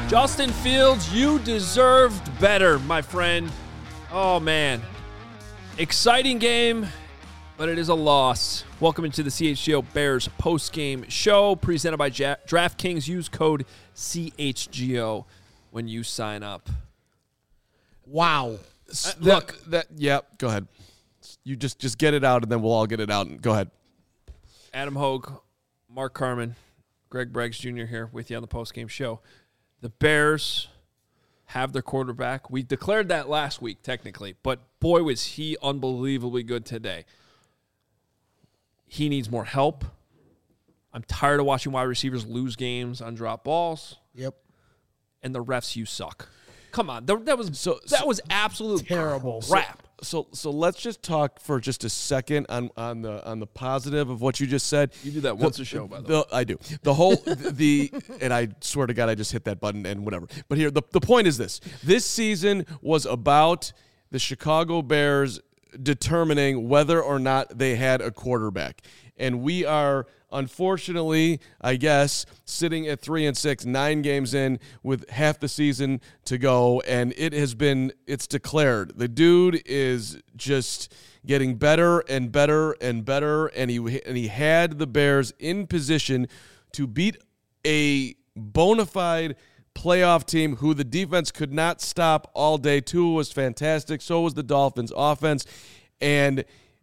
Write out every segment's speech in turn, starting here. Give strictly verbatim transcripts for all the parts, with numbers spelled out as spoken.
Justin Fields, you deserved better, my friend. Oh, man. Exciting game, but it is a loss. Welcome into the C H G O Bears post-game show presented by ja- DraftKings. Use code C H G O when you sign up. Wow. Uh, look. That, that, yeah, go ahead. You just, just get it out, and then we'll all get it out. And go ahead. Adam Hogue, Mark Carman, Greg Braggs Junior here with you on the post-game show. The Bears have their quarterback. We declared that last week, technically, but boy, was he unbelievably good today. He needs more help. I'm tired of watching wide receivers lose games on drop balls. Yep. And the refs, you suck. Come on, that was so, that so was absolute terrible crap. So, so let's just talk for just a second on, on the on the positive of what you just said. You do that once the, a show, by the, the way. I do. The whole the and I swear to God, I just hit that button and whatever. But here, the the point is this: this season was about the Chicago Bears determining whether or not they had a quarterback, and we are, unfortunately, I guess, sitting at three and six, nine games in with half the season to go, and it has been, it's declared. The dude is just getting better and better and better, and he and he had the Bears in position to beat a bona fide playoff team who the defense could not stop all day. Tua was fantastic. So was the Dolphins' offense. And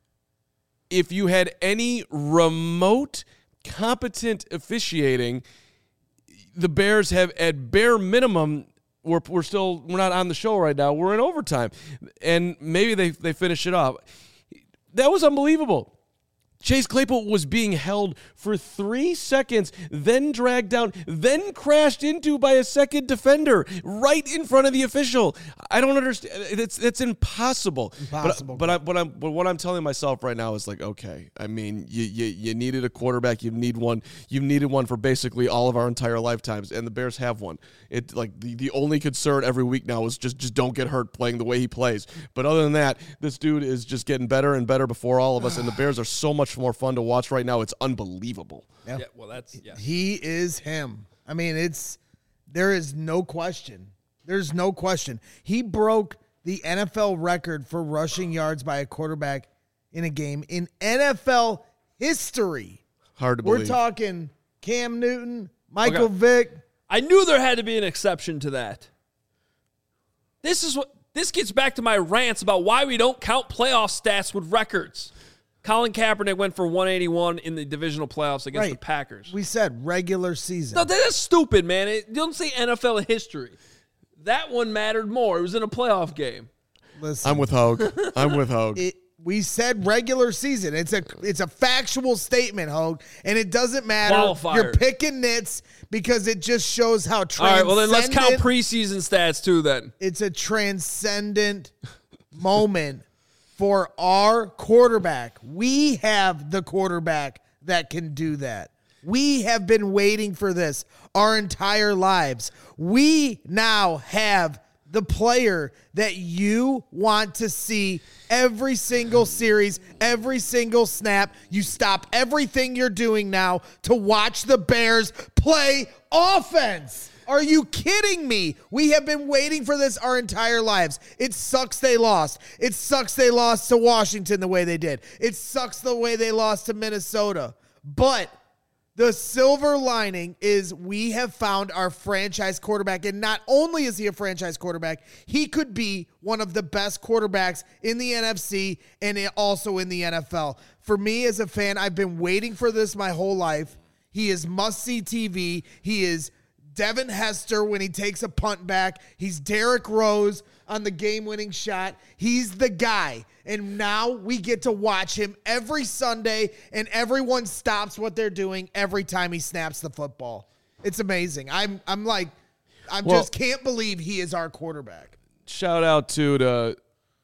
if you had any remote competent officiating, the Bears have, at bare minimum, we're, we're still, we're not on the show right now. We're in overtime. And maybe they, they finish it off. That was unbelievable. Chase Claypool was being held for three seconds, then dragged down, then crashed into by a second defender right in front of the official. I don't understand. It's it's impossible. Impossible. But, but, I, but, I'm, but what I'm telling myself right now is like, okay, I mean, you, you you needed a quarterback. You need one. You needed one for basically all of our entire lifetimes, and the Bears have one. It like the, the only concern every week now is just just don't get hurt playing the way he plays. But other than that, this dude is just getting better and better before all of us, and the Bears are so much more fun to watch right now. It's unbelievable. Yeah. Yeah, well, that's yeah. He is him. I mean, it's there is no question. There's no question. He broke the N F L record for rushing yards by a quarterback in a game in N F L history. Hard to We're believe. talking Cam Newton, Michael Okay. Vick. I knew there had to be an exception to that. This is what this gets back to my rants about why we don't count playoff stats with records. Colin Kaepernick went for one eighty-one in the divisional playoffs against Right. the Packers. We said regular season. No, that's stupid, man. It, don't say N F L history. That one mattered more. It was in a playoff game. Listen, I'm with Hogue. I'm with Hogue. It, we said regular season. It's a it's a factual statement, Hogue, and it doesn't matter. Qualifier. You're picking nits because it just shows how All transcendent. right, well, then let's count preseason stats, too, then. It's a transcendent moment for our quarterback. We have the quarterback that can do that. We have been waiting for this our entire lives. We now have the player that you want to see every single series, every single snap. You stop everything you're doing now to watch the Bears play offense. Are you kidding me? We have been waiting for this our entire lives. It sucks they lost. It sucks they lost to Washington the way they did. It sucks the way they lost to Minnesota. But the silver lining is we have found our franchise quarterback. And not only is he a franchise quarterback, he could be one of the best quarterbacks in the N F C and also in the N F L. For me as a fan, I've been waiting for this my whole life. He is must-see T V. He is Devin Hester when he takes a punt back. He's Derrick Rose on the game-winning shot. He's the guy. And now we get to watch him every Sunday, and everyone stops what they're doing every time he snaps the football. It's amazing. I'm I'm like, I Well, just can't believe he is our quarterback. Shout out to the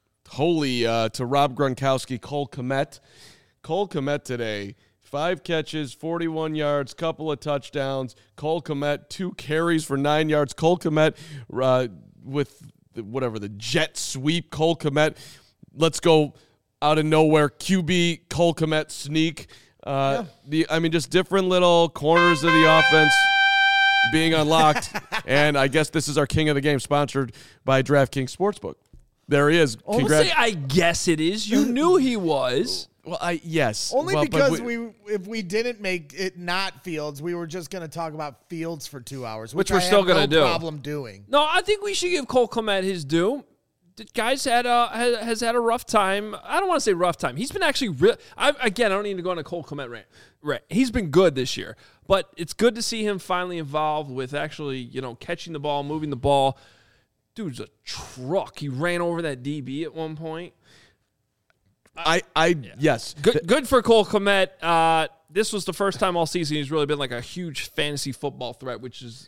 holy uh, to Rob Gronkowski, Cole Kmet. Cole Kmet today. Five catches, forty-one yards, couple of touchdowns. Cole Kmet, two carries for nine yards. Cole Kmet uh, with the, whatever, the jet sweep. Cole Kmet, let's go out of nowhere. Q B, Cole Kmet sneak. Uh, Yeah. the I mean, just different little corners of the offense. being unlocked. And I guess this is our king of the game, sponsored by DraftKings Sportsbook. There he is. Don't Congrats. say I guess it is. You knew he was. Well, I yes. Only well, but because we, if we didn't make it not Fields, we were just going to talk about Fields for two hours, which, Which we're I still have no gonna do. problem doing. No, I think we should give Cole Kmet his due. The guy's had a has, has had a rough time. I don't want to say rough time. He's been actually real. I, again, I don't need to go on a Cole Kmet rant. Right, he's been good this year, but it's good to see him finally involved with actually, you know, catching the ball, moving the ball. Dude's a truck. He ran over that D B at one point. I, I yeah. yes. Good, good for Cole Kmet. Uh, this was the first time all season he's really been like a huge fantasy football threat, which is,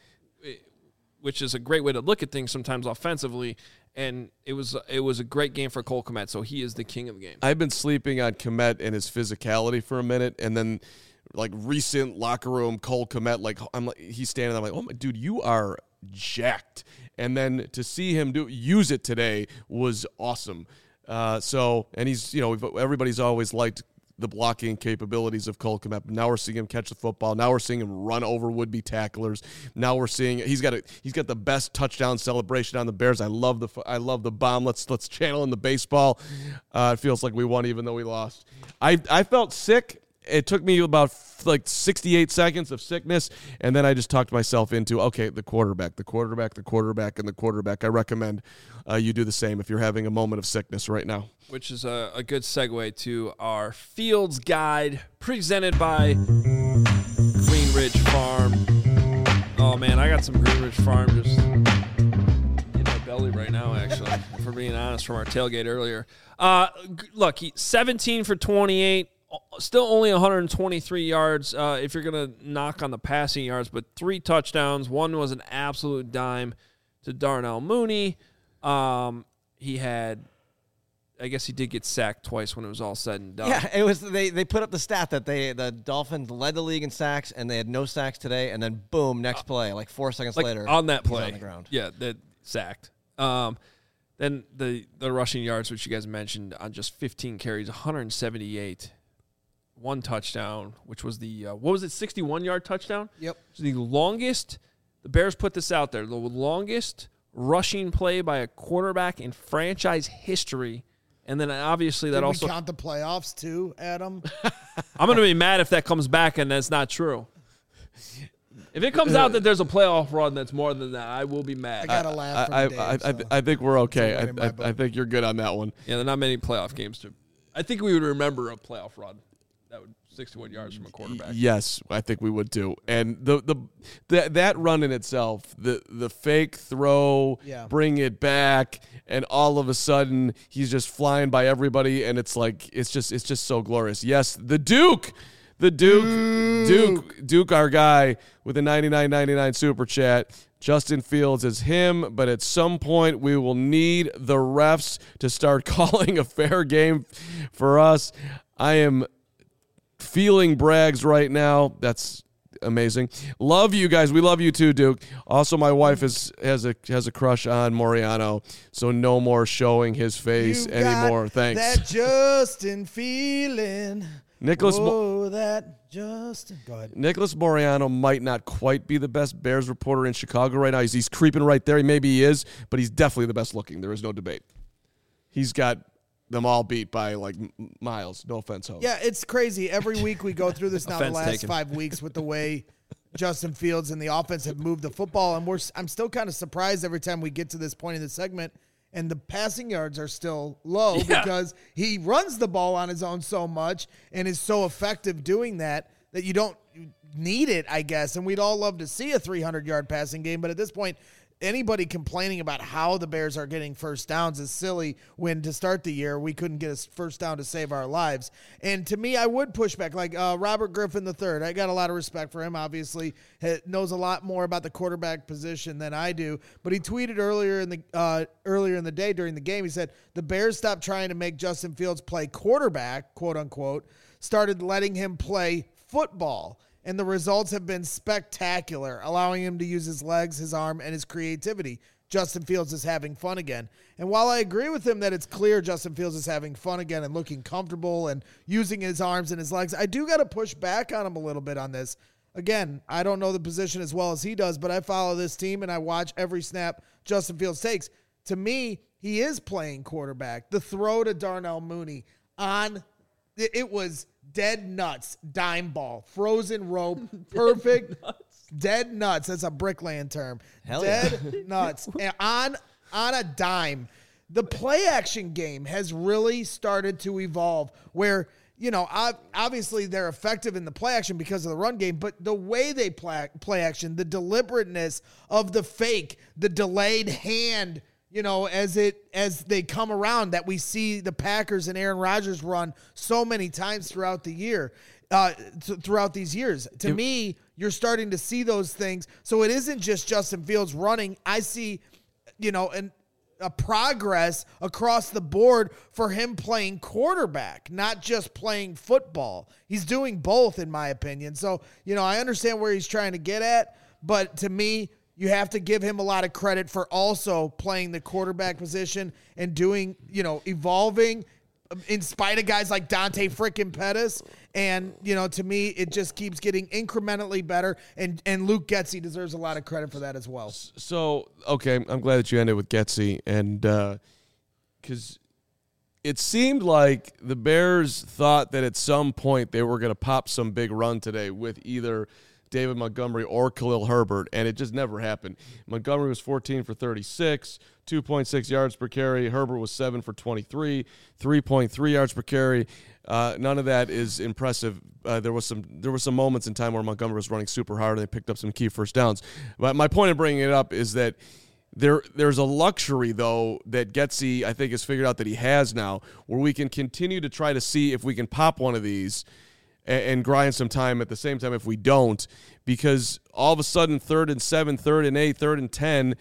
which is a great way to look at things sometimes offensively. And it was it was a great game for Cole Kmet, so he is the king of the game. I've been sleeping on Kmet and his physicality for a minute, and then like recent locker room Cole Kmet, like I'm like he's standing there, I'm like, oh my dude, you are jacked. And then to see him do use it today was awesome. Uh, so and he's you know everybody's always liked the blocking capabilities of Cole Kmet. Now we're seeing him catch the football. Now we're seeing him run over would-be tacklers. Now we're seeing he's got a he's got the best touchdown celebration on the Bears. I love the I love the bomb. Let's let's channel in the baseball. Uh, it feels like we won even though we lost. I I felt sick. It took me about like sixty-eight seconds of sickness, and then I just talked myself into, okay, the quarterback, the quarterback, the quarterback, and the quarterback. I recommend uh, you do the same if you're having a moment of sickness right now. Which is a, a good segue to our Fields Guide presented by Green Ridge Farm. Oh, man, I got some Green Ridge Farm just in my belly right now, actually, if we're being honest, from our tailgate earlier. Uh, look, he seventeen for twenty-eight. Still only one hundred twenty-three yards uh, if you're going to knock on the passing yards, but three touchdowns. One was an absolute dime to Darnell Mooney. Um, he had, I guess he did get sacked twice when it was all said and done. Yeah, it was. They, they put up the stat that they the Dolphins led the league in sacks, and they had no sacks today, and then boom, next play, like four seconds like later, on that he's play, on the ground. Yeah, that sacked. Um, then the the rushing yards, which you guys mentioned, on just fifteen carries, one hundred seventy-eight. One touchdown, which was the, uh, what was it, sixty-one-yard touchdown? Yep. So the longest, the Bears put this out there, the longest rushing play by a quarterback in franchise history. And then obviously that Did also. we count the playoffs too, Adam? I'm going to be mad if that comes back and that's not true. If it comes out that there's a playoff run that's more than that, I will be mad. I got to laugh I, from I, Dave, I, so. I think we're okay. It's a win in my I, I, book. I think you're good on that one. Yeah, there are not many playoff games to. I think we would remember a playoff run. That would sixty-one yards from a quarterback. Yes, I think we would too. And the the that that run in itself, the the fake throw, Yeah. bring it back, and all of a sudden he's just flying by everybody, and it's like it's just it's just so glorious. Yes, the Duke, the Duke, Duke, Duke, our guy with a ninety-nine ninety-nine super chat. Justin Fields is him, but at some point we will need the refs to start calling a fair game for us. I am feeling brags right now. That's amazing. Love you guys. We love you too, Duke. Also, my wife is has a has a crush on Moriano, so no more showing his face You anymore. got Thanks. That Justin feeling. Nicholas Mo- Oh, that Justin. Go ahead. Nicholas Moriano might not quite be the best Bears reporter in Chicago right now. He's, he's creeping right there. Maybe he is, but he's definitely the best looking. There is no debate. He's got them all beat by like m- miles. No offense, Ho. Yeah, it's crazy. Every week we go through this now the Offense last taken. five weeks with the way Justin Fields and the offense have moved the football, and we're I'm still kind of surprised every time we get to this point in the segment, and the passing yards are still low Yeah. because he runs the ball on his own so much and is so effective doing that that you don't need it, I guess. And we'd all love to see a three hundred yard passing game, but at this point, anybody complaining about how the Bears are getting first downs is silly when to start the year we couldn't get a first down to save our lives. And to me, I would push back. Like uh, Robert Griffin the third, I got a lot of respect for him, obviously. He knows a lot more about the quarterback position than I do. But he tweeted earlier in the uh, earlier in the day during the game, he said, the Bears stopped trying to make Justin Fields play quarterback, quote unquote, started letting him play football. And the results have been spectacular, allowing him to use his legs, his arm, and his creativity. Justin Fields is having fun again. And while I agree with him that it's clear Justin Fields is having fun again and looking comfortable and using his arms and his legs, I do got to push back on him a little bit on this. again, I don't know the position as well as he does, but I follow this team and I watch every snap Justin Fields takes. To me, he is playing quarterback. The throw to Darnell Mooney on, it was dead nuts, dime ball, frozen rope, perfect, dead nuts. Dead nuts. That's a bricklaying term. Hell dead yeah. nuts. And on, on a dime. The play action game has really started to evolve where, you know, obviously they're effective in the play action because of the run game, but the way they play, play action, the deliberateness of the fake, the delayed hand, you know, as it as they come around that we see the Packers and Aaron Rodgers run so many times throughout the year, uh, th- throughout these years. To it, me, you're starting to see those things. So it isn't just Justin Fields running. I see, you know, an a progress across the board for him playing quarterback, not just playing football. He's doing both, in my opinion. So, you know, I understand where he's trying to get at, but to me, you have to give him a lot of credit for also playing the quarterback position and doing, you know, evolving in spite of guys like Dante frickin' Pettis. And, you know, to me, it just keeps getting incrementally better. And, and Luke Getsy deserves a lot of credit for that as well. So, okay, I'm glad that you ended with Getsy. And because uh, it seemed like the Bears thought that at some point they were going to pop some big run today with either David Montgomery or Khalil Herbert, and it just never happened. Montgomery was fourteen for thirty-six, two point six yards per carry. Herbert was seven for twenty-three, three point three yards per carry. Uh, none of that is impressive. Uh, there was some there were some moments in time where Montgomery was running super hard and they picked up some key first downs. But my point in bringing it up is that there there's a luxury, though, that Getsy, I think, has figured out that he has now, where we can continue to try to see if we can pop one of these and grind some time at the same time if we don't, because all of a sudden third and seven, third and eight, third and ten,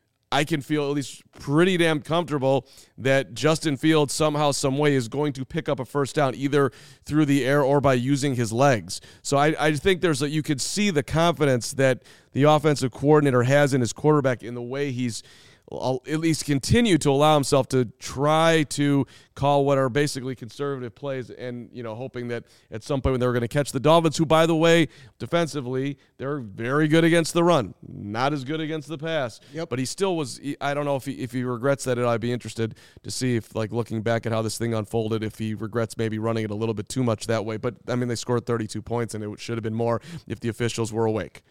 I can feel at least pretty damn comfortable that Justin Fields somehow, some way is going to pick up a first down either through the air or by using his legs. So I, I think there's a, you could see the confidence that the offensive coordinator has in his quarterback in the way he's I'll at least continue to allow himself to try to call what are basically conservative plays and, you know, hoping that at some point when they're going to catch the Dolphins, who, by the way, defensively, they're very good against the run, not as good against the pass. Yep. But he still was, I don't know if he, if he regrets that, I'd be interested to see if, like, looking back at how this thing unfolded, if he regrets maybe running it a little bit too much that way. But, I mean, they scored thirty-two points, and it should have been more if the officials were awake.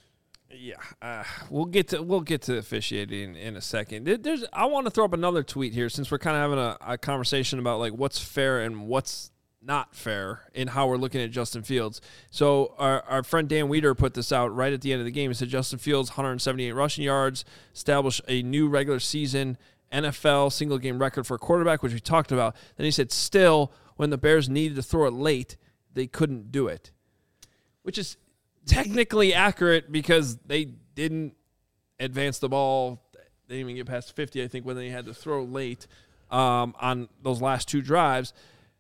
Yeah, uh, we'll get to we'll get to officiating in, in a second. There's I want to throw up another tweet here since we're kind of having a, a conversation about like what's fair and what's not fair in how we're looking at Justin Fields. So our, our friend Dan Weeder put this out right at the end of the game. He said Justin Fields, one hundred seventy-eight rushing yards, established a new regular season N F L single game record for a quarterback, which we talked about. Then he said still, when the Bears needed to throw it late, they couldn't do it, which is technically accurate because they didn't advance the ball. They didn't even get past fifty, I think, when they had to throw late um, on those last two drives.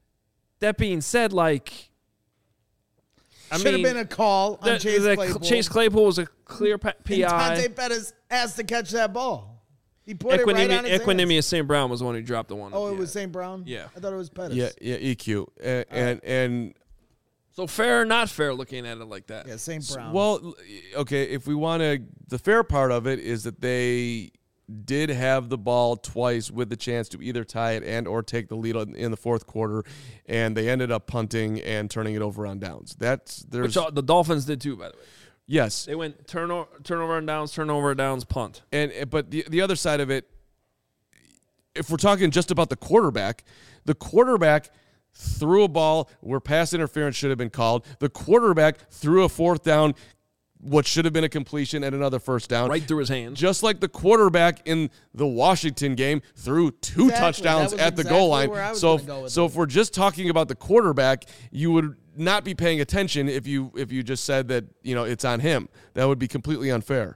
That being said, like, I should mean, have been a call on the, Chase the, Claypool. Chase Claypool was a clear P I. And Dante Pettis asked to catch that ball. He put Equinemi- it right on his Equinemius hands. Saint Brown was the one who dropped the one. Oh, it yeah. was Saint Brown? Yeah. I thought it was Pettis. Yeah, yeah, E Q. And, and, and So fair or not fair looking at it like that? Yeah, Saint Brown. well, okay, if we want to, the fair part of it is that they did have the ball twice with the chance to either tie it and or take the lead in the fourth quarter, and they ended up punting and turning it over on downs. That's there's Which all, the Dolphins did too, by the way. yes, They went turnover, turnover and downs, turnover and downs, punt. and but the the other side of it, if we're talking just about the quarterback, the quarterback threw a ball where pass interference should have been called. The quarterback threw a fourth down, what should have been a completion and another first down. Right through his hands. Just like the quarterback in the Washington game threw two Exactly. touchdowns That was at the exactly goal line. where I was So, gonna go with so it. if we're just talking about the quarterback, you would not be paying attention if you if you just said that, you know, it's on him. That would be completely unfair.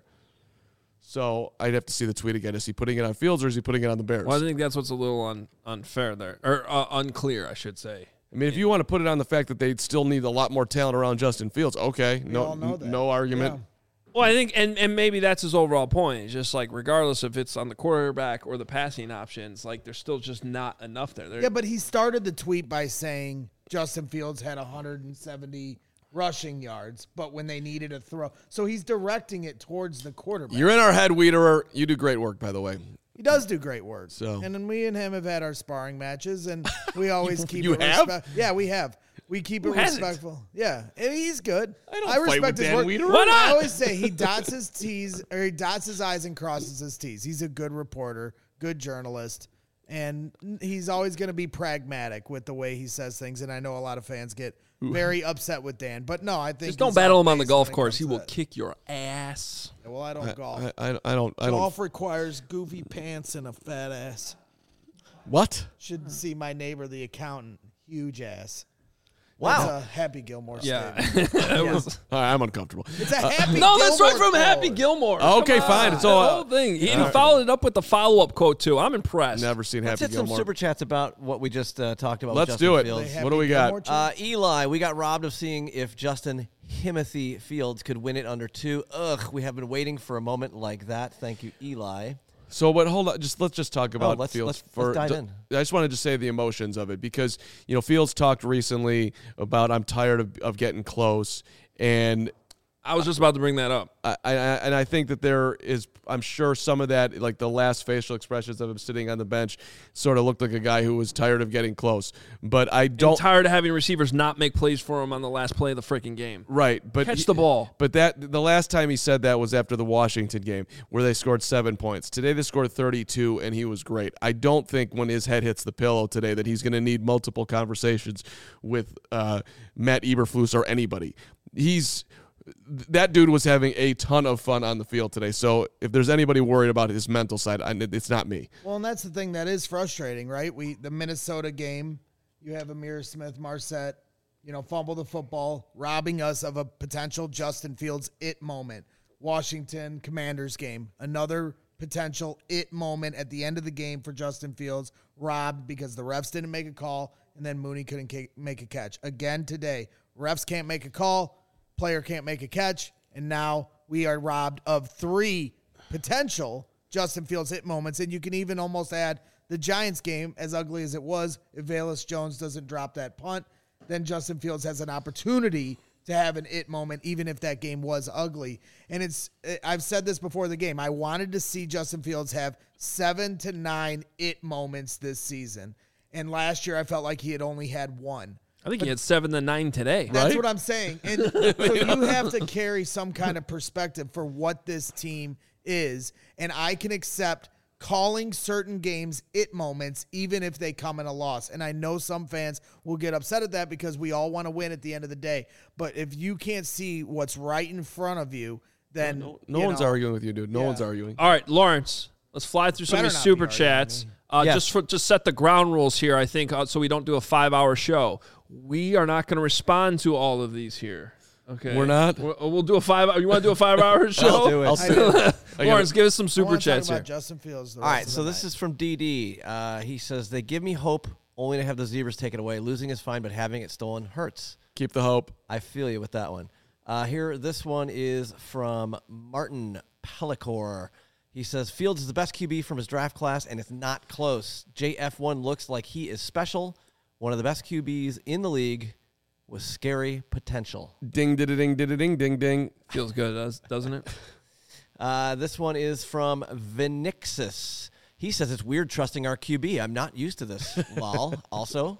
So I'd have to see the tweet again. Is he putting it on Fields or is he putting it on the Bears? Well, I think that's what's a little un, unfair there, or uh, unclear, I should say. I mean, if you want to put it on the fact that they still need a lot more talent around Justin Fields, okay, no, all know that. no argument. Yeah. Well, I think, and, and maybe that's his overall point. It's just like, regardless if it's on the quarterback or the passing options, like there's still just not enough there. They're, Yeah, but he started the tweet by saying Justin Fields had one hundred seventy rushing yards, but when they needed a throw. So he's directing it towards the quarterback. You're in our head, Wiederer. You do great work, by the way. He does do great work. So. And then we and him have had our sparring matches, and we always keep you it have? respect- Yeah, we have. We keep it Who hasn't? respectful. Yeah, and he's good. I don't I fight respect with his Dan work. Wiederer. Why not? I always say he dots his T's, or he dots his I's and crosses his T's. He's a good reporter, good journalist, and he's always going to be pragmatic with the way he says things. And I know a lot of fans get very upset with Dan, but no, I think Just don't he's battle off him on the base golf when it course. comes He to will that. kick your ass. Well, I don't golf. I, I, I don't. I don't. Golf requires goofy pants and a fat ass. What? Should see my neighbor, the accountant. Huge ass. Wow. That's a Happy Gilmore Yeah. statement. That was- All right, I'm uncomfortable. It's a Happy no, that's right Gilmore from Happy quote. Gilmore. Okay, Come fine. on. It's all- the whole thing. He even followed it up with the follow-up quote, too. I'm impressed. Never seen Let's Happy hit some Gilmore. super chats about what we just uh, talked about. Let's with do Justin it. Fields. They Happy What do we got? Gilmore too? Uh, Eli, we got robbed of seeing if Justin Timothy Fields could win it under two. Ugh, we have been waiting for a moment like that. Thank you, Eli. So, but hold on, just let's just talk about let's- Fields let's- for. let's dive ju- in. I just wanted to say the emotions of it because you know Fields talked recently about I'm tired of, of getting close, and I was just about to bring that up. I, I and I think that there is I'm sure some of that like the last facial expressions of him sitting on the bench sort of looked like a guy who was tired of getting close, but I I'm don't. tired of having receivers not make plays for him on the last play of the freaking game. Right, but Catch he- the ball. But that the last time he said that was after the Washington game, where they scored seven points. Today they scored thirty-two, and he was great. I don't think when his head hits the pillow today that he's going to need multiple conversations with uh, Matt Eberflus or anybody. He's that dude was having a ton of fun on the field today. So if there's anybody worried about his mental side, I, it's not me. Well, and that's the thing that is frustrating, right? We the Minnesota game, you have Amir Smith Marset, you know, fumble the football, robbing us of a potential Justin Fields it moment. Washington Commanders game, another potential it moment at the end of the game for Justin Fields, robbed because the refs didn't make a call, and then Mooney couldn't ca- make a catch. Again today, refs can't make a call, player can't make a catch, and now we are robbed of three potential Justin Fields hit moments, and you can even almost add the Giants game, as ugly as it was, if Velus Jones doesn't drop that punt, then Justin Fields has an opportunity to have an it moment, even if that game was ugly. And it's I've said this before the game. I wanted to see Justin Fields have seven to nine it moments this season. And last year I felt like he had only had one. I think he had seven to nine today. That's Right? what I'm saying. And so you have to carry some kind of perspective for what this team is. And I can accept calling certain games it moments, even if they come in a loss. And I know some fans will get upset at that because we all want to win at the end of the day. But if you can't see what's right in front of you, then No, no you one's know, arguing with you, dude. No Yeah. one's arguing. All right, Lawrence, let's fly through some of Better these not be super arguing chats. with me. Uh, Yes. Just for just set the ground rules here, I think, uh, so we don't do a five-hour show. We are not going to respond to all of these here. Okay, We're not? We'll, we'll do a five. You want to do a five-hour show? I'll do it. I'll sit. Lawrence, give us some I super want to talk chats about here. Justin Fields. The All rest right, of so the this night. is from D D. Uh, he says, they give me hope only to have the Zebras take it away. Losing is fine, but having it stolen hurts. Keep the hope. I feel you with that one. Uh, here, this one is from Martin Pellicor. He says, Fields is the best Q B from his draft class, and it's not close. J F one looks like he is special. One of the best Q Bs in the league with scary potential. Ding, ding, ding, ding, ding, ding, ding. Feels good, does- doesn't it? Uh, this one is from Vinixis. He says, it's weird trusting our Q B. I'm not used to this. Lol. Also,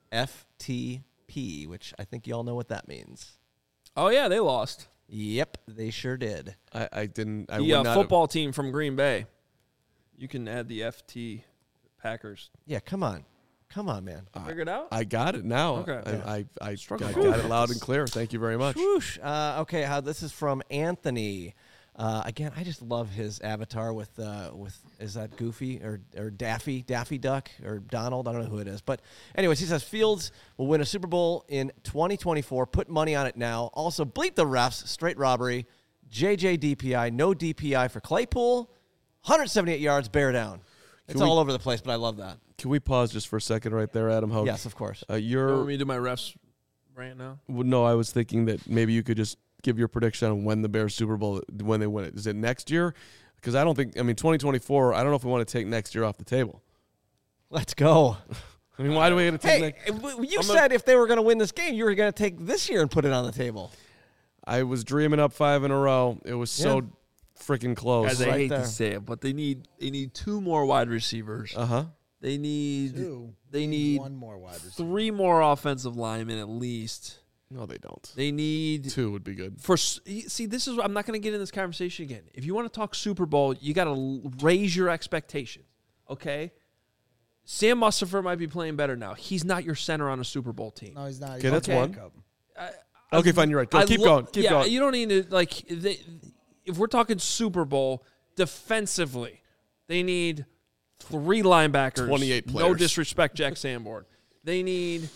F T P, which I think you all know what that means. Oh yeah, they lost. Yep, they sure did. I, I didn't. I The would uh, not football team from Green Bay. You can add the F T Packers. Yeah, come on. Come on, man. Figure it out. Have, I got it now. Okay. I, I, I, I Struggle. got it loud and clear. Thank you very much. Whoosh. Uh, okay, how this is from Anthony. Uh, again, I just love his avatar with uh, with is that Goofy or or Daffy Daffy Duck or Donald? I don't know who it is, but anyways, he says Fields will win a Super Bowl in twenty twenty-four. Put money on it now. Also, bleep the refs. Straight robbery. J J D P I. No D P I for Claypool. one hundred seventy-eight yards. Bear down. It's Can we- all over the place, but I love that. Can we pause just for a second right there, Adam Hogue? Yes, of course. Uh, You want you're me to do my refs rant now? well, no. I was thinking that maybe you could just give your prediction on when the Bears Super Bowl when they win it. Is it next year? Because I don't think. I mean, twenty twenty-four. I don't know if we want to take next year off the table. Let's go. I mean, why do we have to take Hey, that? w- you I'm said if they were going to win this game, you were going to take this year and put it on the table. I was dreaming up five in a row. It was so Yeah. freaking close. Guys, I right hate there. to say it, but they need they need two more wide receivers. Uh huh. They need Two. they need one more wide receiver. three more offensive linemen at least. No, they don't. They need Two would be good. for s- see. This is I'm not going to get in this conversation again. If you want to talk Super Bowl, you got to raise your expectations. Okay. Sam Mustipher might be playing better now. He's not your center on a Super Bowl team. No, he's not. Okay, that's one. backup. Okay, fine. You're right. Go, I keep lo- going. Keep yeah, going. you don't need to like. They, if we're talking Super Bowl defensively, they need three linebackers. twenty-eight No players. disrespect, Jack Sanborn. They need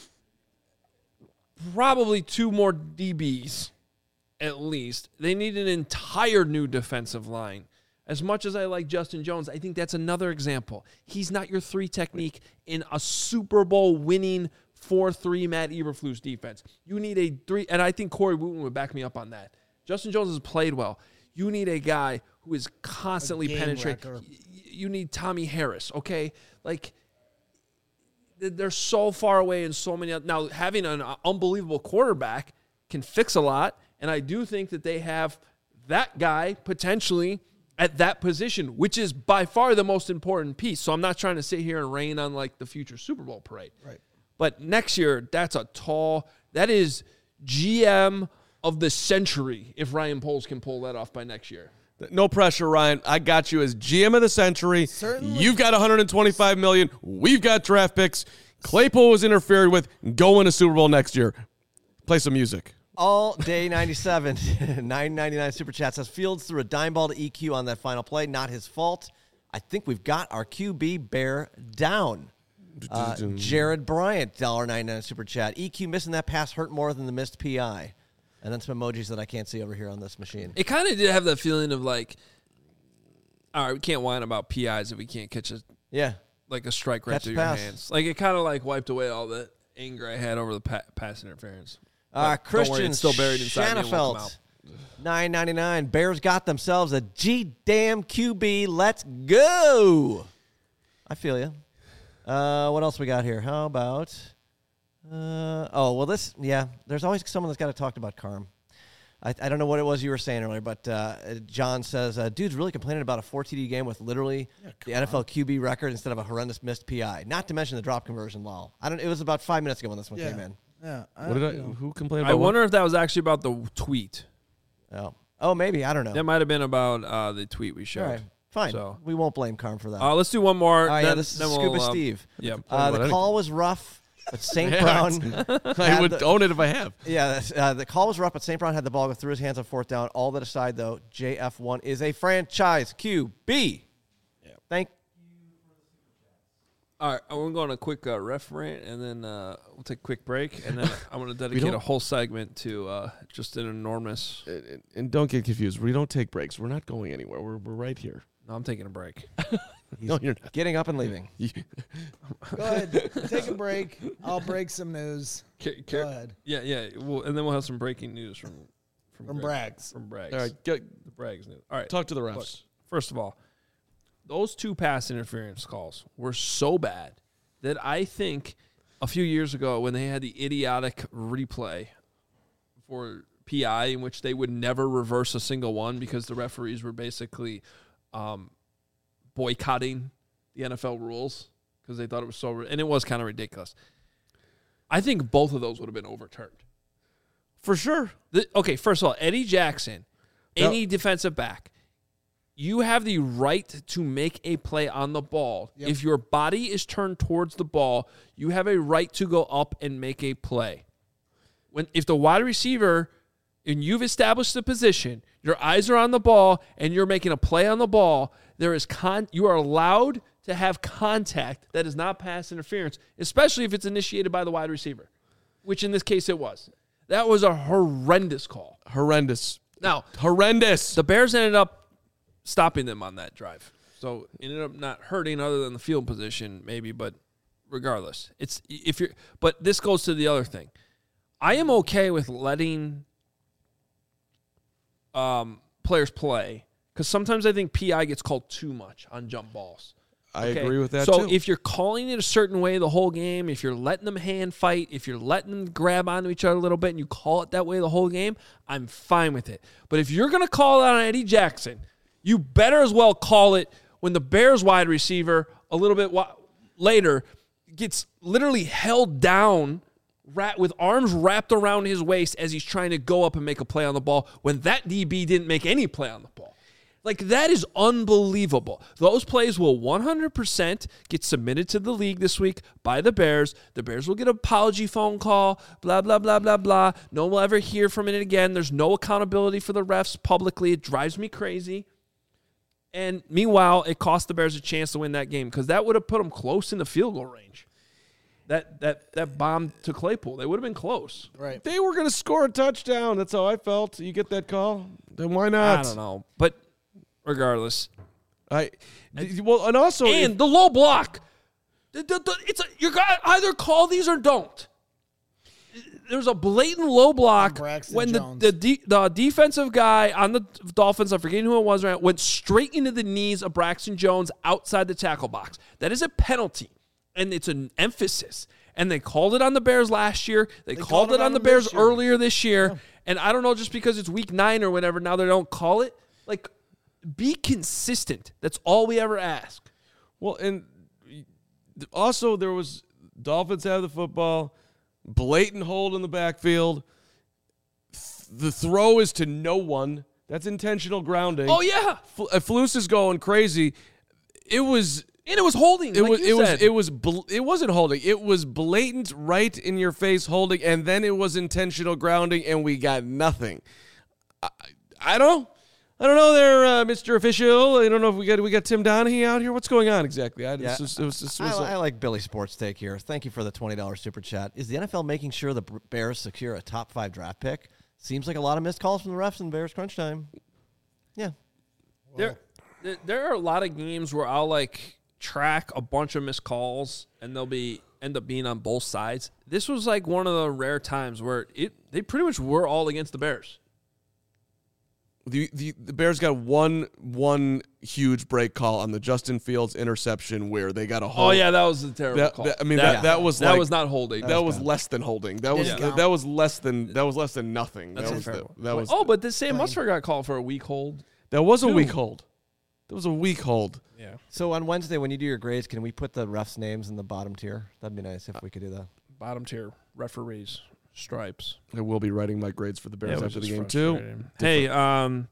probably two more D Bs, at least. They need an entire new defensive line. As much as I like Justin Jones, I think that's another example. He's not your three technique in a Super Bowl winning four three Matt Eberflus defense. You need a three, and I think Corey Wooten would back me up on that. Justin Jones has played well. You need a guy who is constantly game penetrating. wrecker. Y- You need Tommy Harris, okay? Like, th- they're so far away in so many. Now, having an uh, unbelievable quarterback can fix a lot, and I do think that they have that guy potentially at that position, which is by far the most important piece. So I'm not trying to sit here and rain on like the future Super Bowl parade. Right. But next year, that's a tall, that is G M of the century if Ryan Poles can pull that off by next year. No pressure, Ryan. I got you as G M of the century. Certainly. You've got one hundred twenty-five million dollars. We've got draft picks. Claypool was interfered with. Go win a Super Bowl next year. Play some music. All day ninety-seven, nine ninety-nine super chat says Fields threw a dime ball to E Q on that final play. Not his fault. I think we've got our Q B bear down. Uh, Jared Bryant, one dollar ninety-nine super chat. E Q missing that pass hurt more than the missed P I. And then some emojis that I can't see over here on this machine. It kind of did have that feeling of like, all right, we can't whine about P Is if we can't catch a Yeah. like a strike right Catch through the your pass. hands. Like it kind of like wiped away all the anger I had over the pa- pass interference. Uh, But don't worry, Christian it's still buried inside me and won't come Shanafelt, out. nine ninety-nine. Bears got themselves a G damn Q B. Let's go. I feel you. Uh, what else we got here? How about? Uh, oh well, this yeah. There's always someone that's got to talk about Carm. I, I don't know what it was you were saying earlier, but uh, John says, uh, dude's really complaining about a four T D game with literally the N F L Q B record instead of a horrendous missed P I. Not to mention the drop conversion law. I don't. It was about five minutes ago when this one Yeah. came in. Yeah. I, What did I? you know. Who complained about I what? wonder if that was actually about the tweet. Oh, oh, maybe I don't know. That might have been about uh, the tweet we All showed. right, fine. So- We won't blame Carm for that. Uh, let's do one more. All right, yeah, then- this is then we'll, Scuba um, Steve. Yep. Uh, about the anything. call was rough, but Saint Yeah, Brown. I had would the- own it if I have. Yeah, that's- uh, the call was rough, but Saint Brown had the ball go through his hands on fourth down. All that aside, though, J F one is a franchise Q B. Thank. All right, I'm going to go on a quick uh, ref rant, and then uh, we'll take a quick break, and then I'm going to dedicate don't- a whole segment to uh, just an enormous. And, and don't get confused. We don't take breaks. We're not going anywhere. We're, we're right here. No, I'm taking a break. No, you're not. Getting up and leaving. You- Go ahead. Take a break. I'll break some news. Ca- Go ca- ahead. Yeah, yeah. We'll, and then we'll have some breaking news from from, From Greg- Braggs. From Braggs. All right, get, The Braggs news. All right. talk to the refs. Look, first of all, those two pass interference calls were so bad that I think a few years ago when they had the idiotic replay for P I in which they would never reverse a single one because the referees were basically um, boycotting the N F L rules because they thought it was so – and it was kind of ridiculous. I think both of those would have been overturned. For sure. The, okay, first of all, Eddie Jackson, any defensive back, you have the right to make a play on the ball. Yep. If your body is turned towards the ball, you have a right to go up and make a play. When if the wide receiver and you've established the position, your eyes are on the ball and you're making a play on the ball, there is con you are allowed to have contact that is not pass interference, especially if it's initiated by the wide receiver, which in this case it was. That was a horrendous call. Horrendous. Now, Horrendous. the Bears ended up stopping them on that drive. So it ended up not hurting other than the field position, maybe, but regardless. It's if you're but this goes to the other thing. I am okay with letting um, players play because sometimes I think P I gets called too much on jump balls. I Okay? agree with that so too. if you're calling it a certain way the whole game, if you're letting them hand fight, if you're letting them grab onto each other a little bit and you call it that way the whole game, I'm fine with it. But if you're going to call it on Eddie Jackson, you better as well call it when the Bears wide receiver a little bit wa- later gets literally held down ra- with arms wrapped around his waist as he's trying to go up and make a play on the ball when that D B didn't make any play on the ball. Like, that is unbelievable. Those plays will one hundred percent get submitted to the league this week by the Bears. The Bears will get an apology phone call, blah, blah, blah, blah, blah. No one will ever hear from it again. There's no accountability for the refs publicly. It drives me crazy. And meanwhile, it cost the Bears a chance to win that game because that would have put them close in the field goal range. That that that bomb to Claypool, they would have been close. Right. they were going to score a touchdown. That's how I felt. You get that call? Then why not? I don't know. But regardless. I well, and also And if- the low block. The- the- the- It's a, you got either call these or don't. There's a blatant low block Braxton when the Jones. the, de- the defensive guy on the Dolphins, I'm forgetting who it was, right, went straight into the knees of Braxton Jones outside the tackle box. That is a penalty, and it's an emphasis. And they called it on the Bears last year. They, They called, called it it on on the them Bears this year. earlier this year. And I don't know, just because it's week nine or whatever, now they don't call it. Like, be consistent. That's all we ever ask. well, and also there was Dolphins have the football, blatant hold in the backfield. The throw is to no one. That's intentional grounding. Oh, yeah. F- uh, Flus is going crazy. It was And it was holding. It like was you it said. was it was bl- it wasn't holding. It was blatant, right in your face holding, and then it was intentional grounding, and we got nothing. I, I don't I don't know there, uh, Mister Official. I don't know if we got we got Tim Donahue out here. What's going on exactly? I, Yeah, this was, it was, this I, was, I like Billy Sports Take here. Thank you for the twenty dollars super chat. Is the N F L making sure the Bears secure a top five draft pick? Seems like a lot of missed calls from the refs in Bears crunch time. Yeah. There, there, there are a lot of games where I'll like track a bunch of missed calls, and they'll be end up being on both sides. This was like one of the rare times where it they pretty much were all against the Bears. the, the the Bears got one one huge break call on the Justin Fields interception where they got a hold. Oh yeah, that was a terrible That- call. that- I mean, that- that was that like- was not holding. that was less than holding. That was Didn't that, count. that was less than that was less than nothing. That's that was the, terrible. that was oh, but the Sam Mustard got called for a weak hold. that was a two. weak hold. That was a weak hold. Yeah, So on Wednesday, when you do your grades, can we put the refs' names in the bottom tier? That'd be nice if we could do that. bottom tier referees stripes. I will be writing my grades for the Bears Yeah, after the which is game too. frustrating. Hey, um,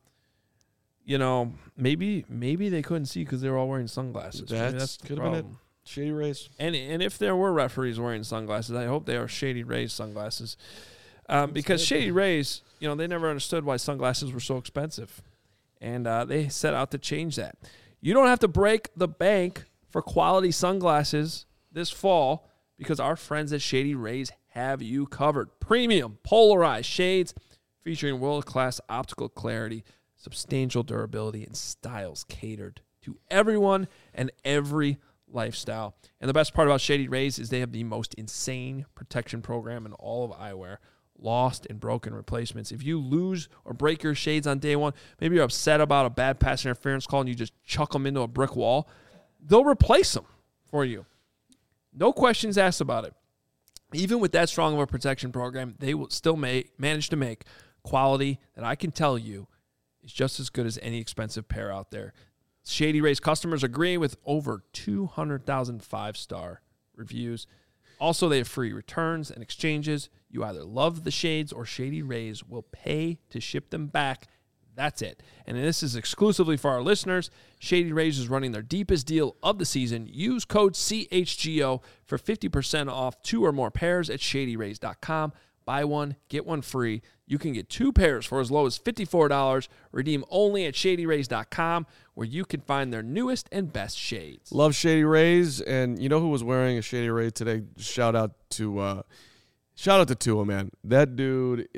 you know, maybe maybe they couldn't see because they were all wearing sunglasses. Maybe That's- the could have been it. problem. Shady Rays. And and if there were referees wearing sunglasses, I hope they are Shady Rays sunglasses, um, because Shady Rays, you know, they never understood why sunglasses were so expensive, and uh, they set out to change that. You don't have to break the bank for quality sunglasses this fall because our friends at Shady Rays have you covered. Premium polarized shades featuring world-class optical clarity, substantial durability, and styles catered to everyone and every lifestyle. And the best part about Shady Rays is they have the most insane protection program in all of eyewear. Lost and broken replacements. If you lose or break your shades on day one, maybe you're upset about a bad pass interference call and you just chuck them into a brick wall, they'll replace them for you. No questions asked about it. Even with that strong of a protection program, they will still make, manage to make quality that I can tell you is just as good as any expensive pair out there. Shady Rays customers agree with over two hundred thousand five-star reviews. Also, they have free returns and exchanges. You either love the shades or Shady Rays will pay to ship them back. That's it. And this is exclusively for our listeners. Shady Rays is running their deepest deal of the season. Use code C H G O for fifty percent off two or more pairs at shady rays dot com. Buy one, get one free. You can get two pairs for as low as fifty-four dollars. Redeem only at shady rays dot com, where you can find their newest and best shades. Love Shady Rays, and you know who was wearing a Shady Ray today? Shout out to uh, shout out to Tua, man. That dude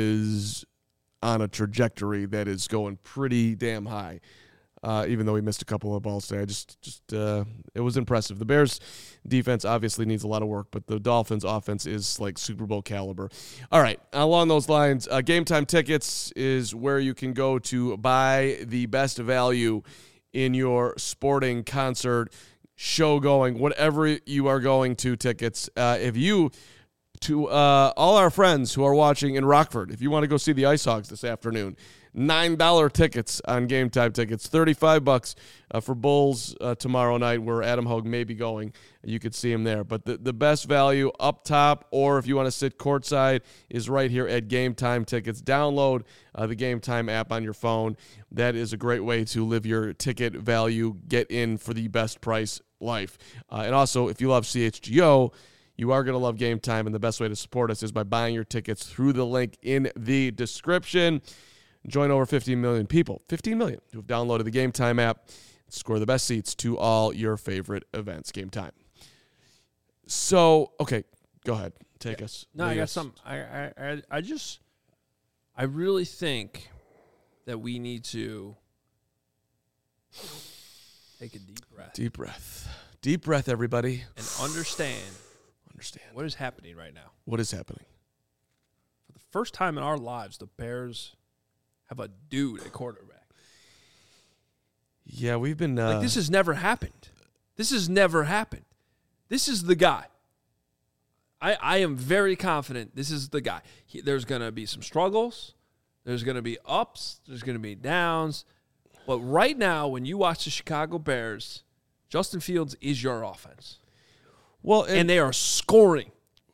is on a trajectory that is going pretty damn high. Uh, even though he missed a couple of balls today, I just just uh, it was impressive. The Bears defense obviously needs a lot of work, but the Dolphins offense is like Super Bowl caliber. All right, along those lines, uh, Game Time Tickets is where you can go to buy the best value in your sporting concert. show going, whatever you are going to tickets. Uh, if you, to uh, all our friends who are watching in Rockford, if you want to go see the Ice Hogs this afternoon, nine dollar tickets on Game Time tickets, thirty-five bucks uh, for Bulls uh, tomorrow night, where Adam Hogue may be going. You could see him there. But the, the best value up top, or if you want to sit courtside, is right here at Game Time Tickets. Download uh, the Game Time app on your phone. That is a great way to live your ticket value, get in for the best price life. Uh, and also, if you love C H G O, you are going to love Game Time, and the best way to support us is by buying your tickets through the link in the description. Join over fifteen million people, fifteen million, who have downloaded the Game Time app, score the best seats to all your favorite events. Game Time. So, okay, go ahead. Take yeah. us. No, I got something. I, I, I just, I really think that we need to take a deep breath. Deep breath. Deep breath, everybody. And understand. Understand. What is happening right now. What is happening? For the first time in our lives, the Bears have a dude at quarterback. Yeah, we've been... Uh, like, this has never happened. This has never happened. This is the guy. I, I am very confident this is the guy. He, there's going to be some struggles. There's going to be ups. There's going to be downs. But right now, when you watch the Chicago Bears, Justin Fields is your offense. Well, and, and they are scoring.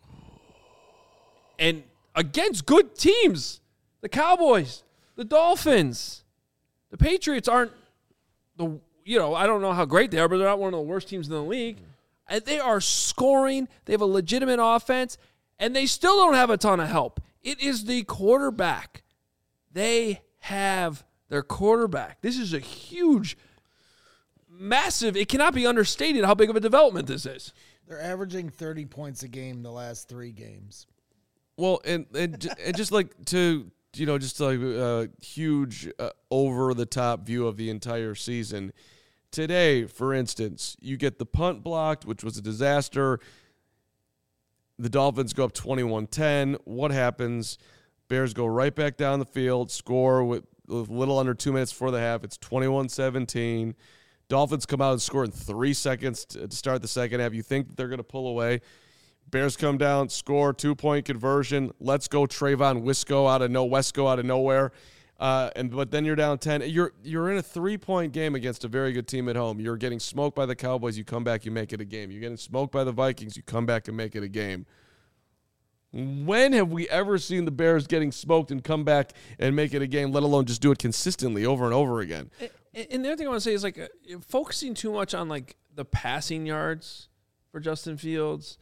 And against good teams. The Cowboys, the Dolphins, the Patriots aren't the, you know, I don't know how great they are, but they're not one of the worst teams in the league. And they are scoring. They have a legitimate offense, and they still don't have a ton of help. It is the quarterback. They have their quarterback. This is a huge, massive, it cannot be understated how big of a development this is. They're averaging thirty points a game the last three games. Well, and and, and just like to, you know, just like a huge uh, over-the-top view of the entire season. Today, for instance, you get the punt blocked, which was a disaster. The Dolphins go up twenty-one ten. What happens? Bears go right back down the field, score with a little under two minutes before the half. It's twenty-one seventeen. Dolphins come out and score in three seconds to start the second half. You think that they're going to pull away. Bears come down, score, two-point conversion. Let's go Trayvon Wisco out of no Wesco out of nowhere. Uh, and but then you're down ten. You're you're in a three-point game against a very good team at home. You're getting smoked by the Cowboys. You come back, you make it a game. You're getting smoked by the Vikings. You come back and make it a game. When have we ever seen the Bears getting smoked and come back and make it a game, let alone just do it consistently over and over again? And the other thing I want to say is, like, uh, focusing too much on, like, the passing yards for Justin Fields.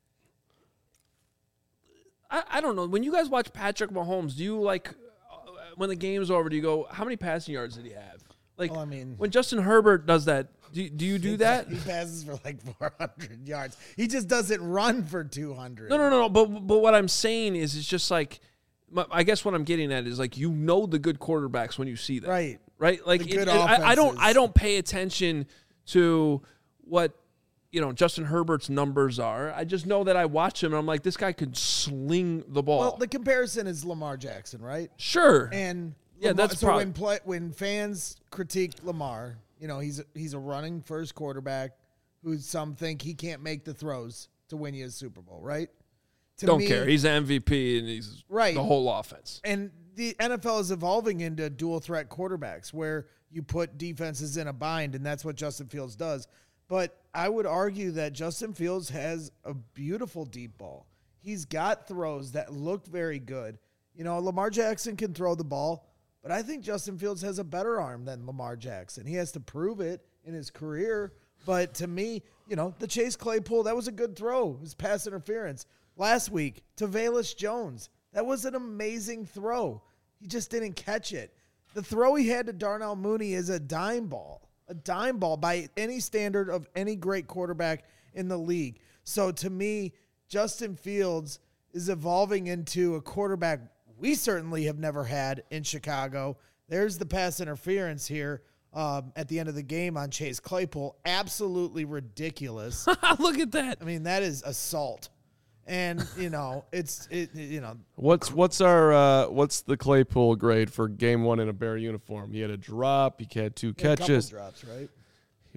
I, I don't know. When you guys watch Patrick Mahomes, do you, like, uh, when the game's over, do you go, how many passing yards did he have? Like, well, I mean, when Justin Herbert does that, do, do you do that? He passes for like four hundred yards. He just doesn't run for two hundred. No, no, no, no. But, but what I'm saying is, it's just like, I guess what I'm getting at is, like, you know the good quarterbacks when you see them. Right. Right? Like, it, it, I, I don't I don't pay attention to what, you know, Justin Herbert's numbers are. I just know that I watch him, and I'm like, this guy could sling the ball. Well, the comparison is Lamar Jackson, right? Sure. And yeah, Lamar, that's so prob- when play, when fans critique Lamar, you know, he's a, he's a running first quarterback who some think he can't make the throws to win you a Super Bowl, right? To don't me, care. He's an M V P, and he's right. the whole offense. And the N F L is evolving into dual threat quarterbacks where you put defenses in a bind, and that's what Justin Fields does. But I would argue that Justin Fields has a beautiful deep ball. He's got throws that look very good. You know, Lamar Jackson can throw the ball, but I think Justin Fields has a better arm than Lamar Jackson. He has to prove it in his career. But to me, you know, the Chase Claypool, that was a good throw. It was pass interference. Last week, to Velus Jones, that was an amazing throw. He just didn't catch it. The throw he had to Darnell Mooney is a dime ball. A dime ball by any standard of any great quarterback in the league. So to me, Justin Fields is evolving into a quarterback we certainly have never had in Chicago. There's the pass interference here um, at the end of the game on Chase Claypool. Absolutely ridiculous. Look at that. I mean, that is assault. And, you know, it's, it, you know. What's what's our, uh, what's the Claypool grade for game one in a Bear uniform? He had a drop. He had two He had catches. a couple drops, right?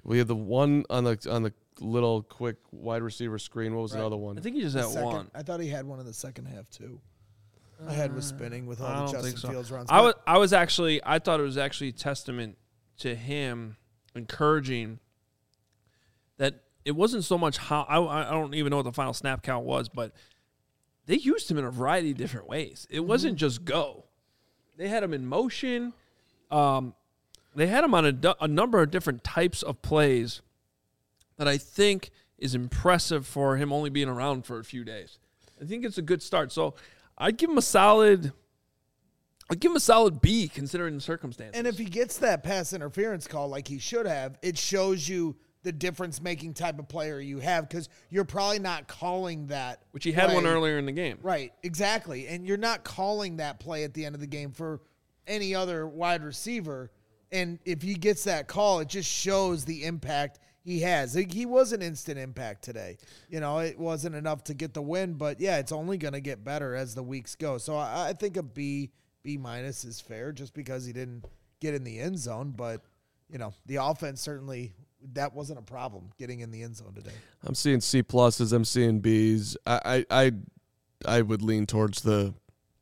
We had the one on the on the little quick wide receiver screen. What was Right. the other one? I think he just The had second- one. I thought he had one in the second half too. My head was spinning with all I the don't Justin think so. Fields runs. I but- was I was actually I thought it was actually a testament to him encouraging that it wasn't so much how I I don't even know what the final snap count was, but they used him in a variety of different ways. It wasn't just go. They had him in motion. Um, they had him on a, du- a number of different types of plays that I think is impressive for him only being around for a few days. I think it's a good start. So I'd give him a solid I'd give him a solid B considering the circumstances. And if he gets that pass interference call like he should have, it shows you the difference-making type of player you have because you're probably not calling that. Which he had play. one earlier in the game. Right, exactly. And you're not calling that play at the end of the game for any other wide receiver. And if he gets that call, it just shows the impact he has. Like, he was an instant impact today. You know, it wasn't enough to get the win, but yeah, it's only going to get better as the weeks go. So I, I think a B, B minus is fair just because he didn't get in the end zone. But, you know, the offense certainly, that wasn't a problem getting in the end zone today. I'm seeing C pluses. I'm seeing Bs. I, I, I, I would lean towards the.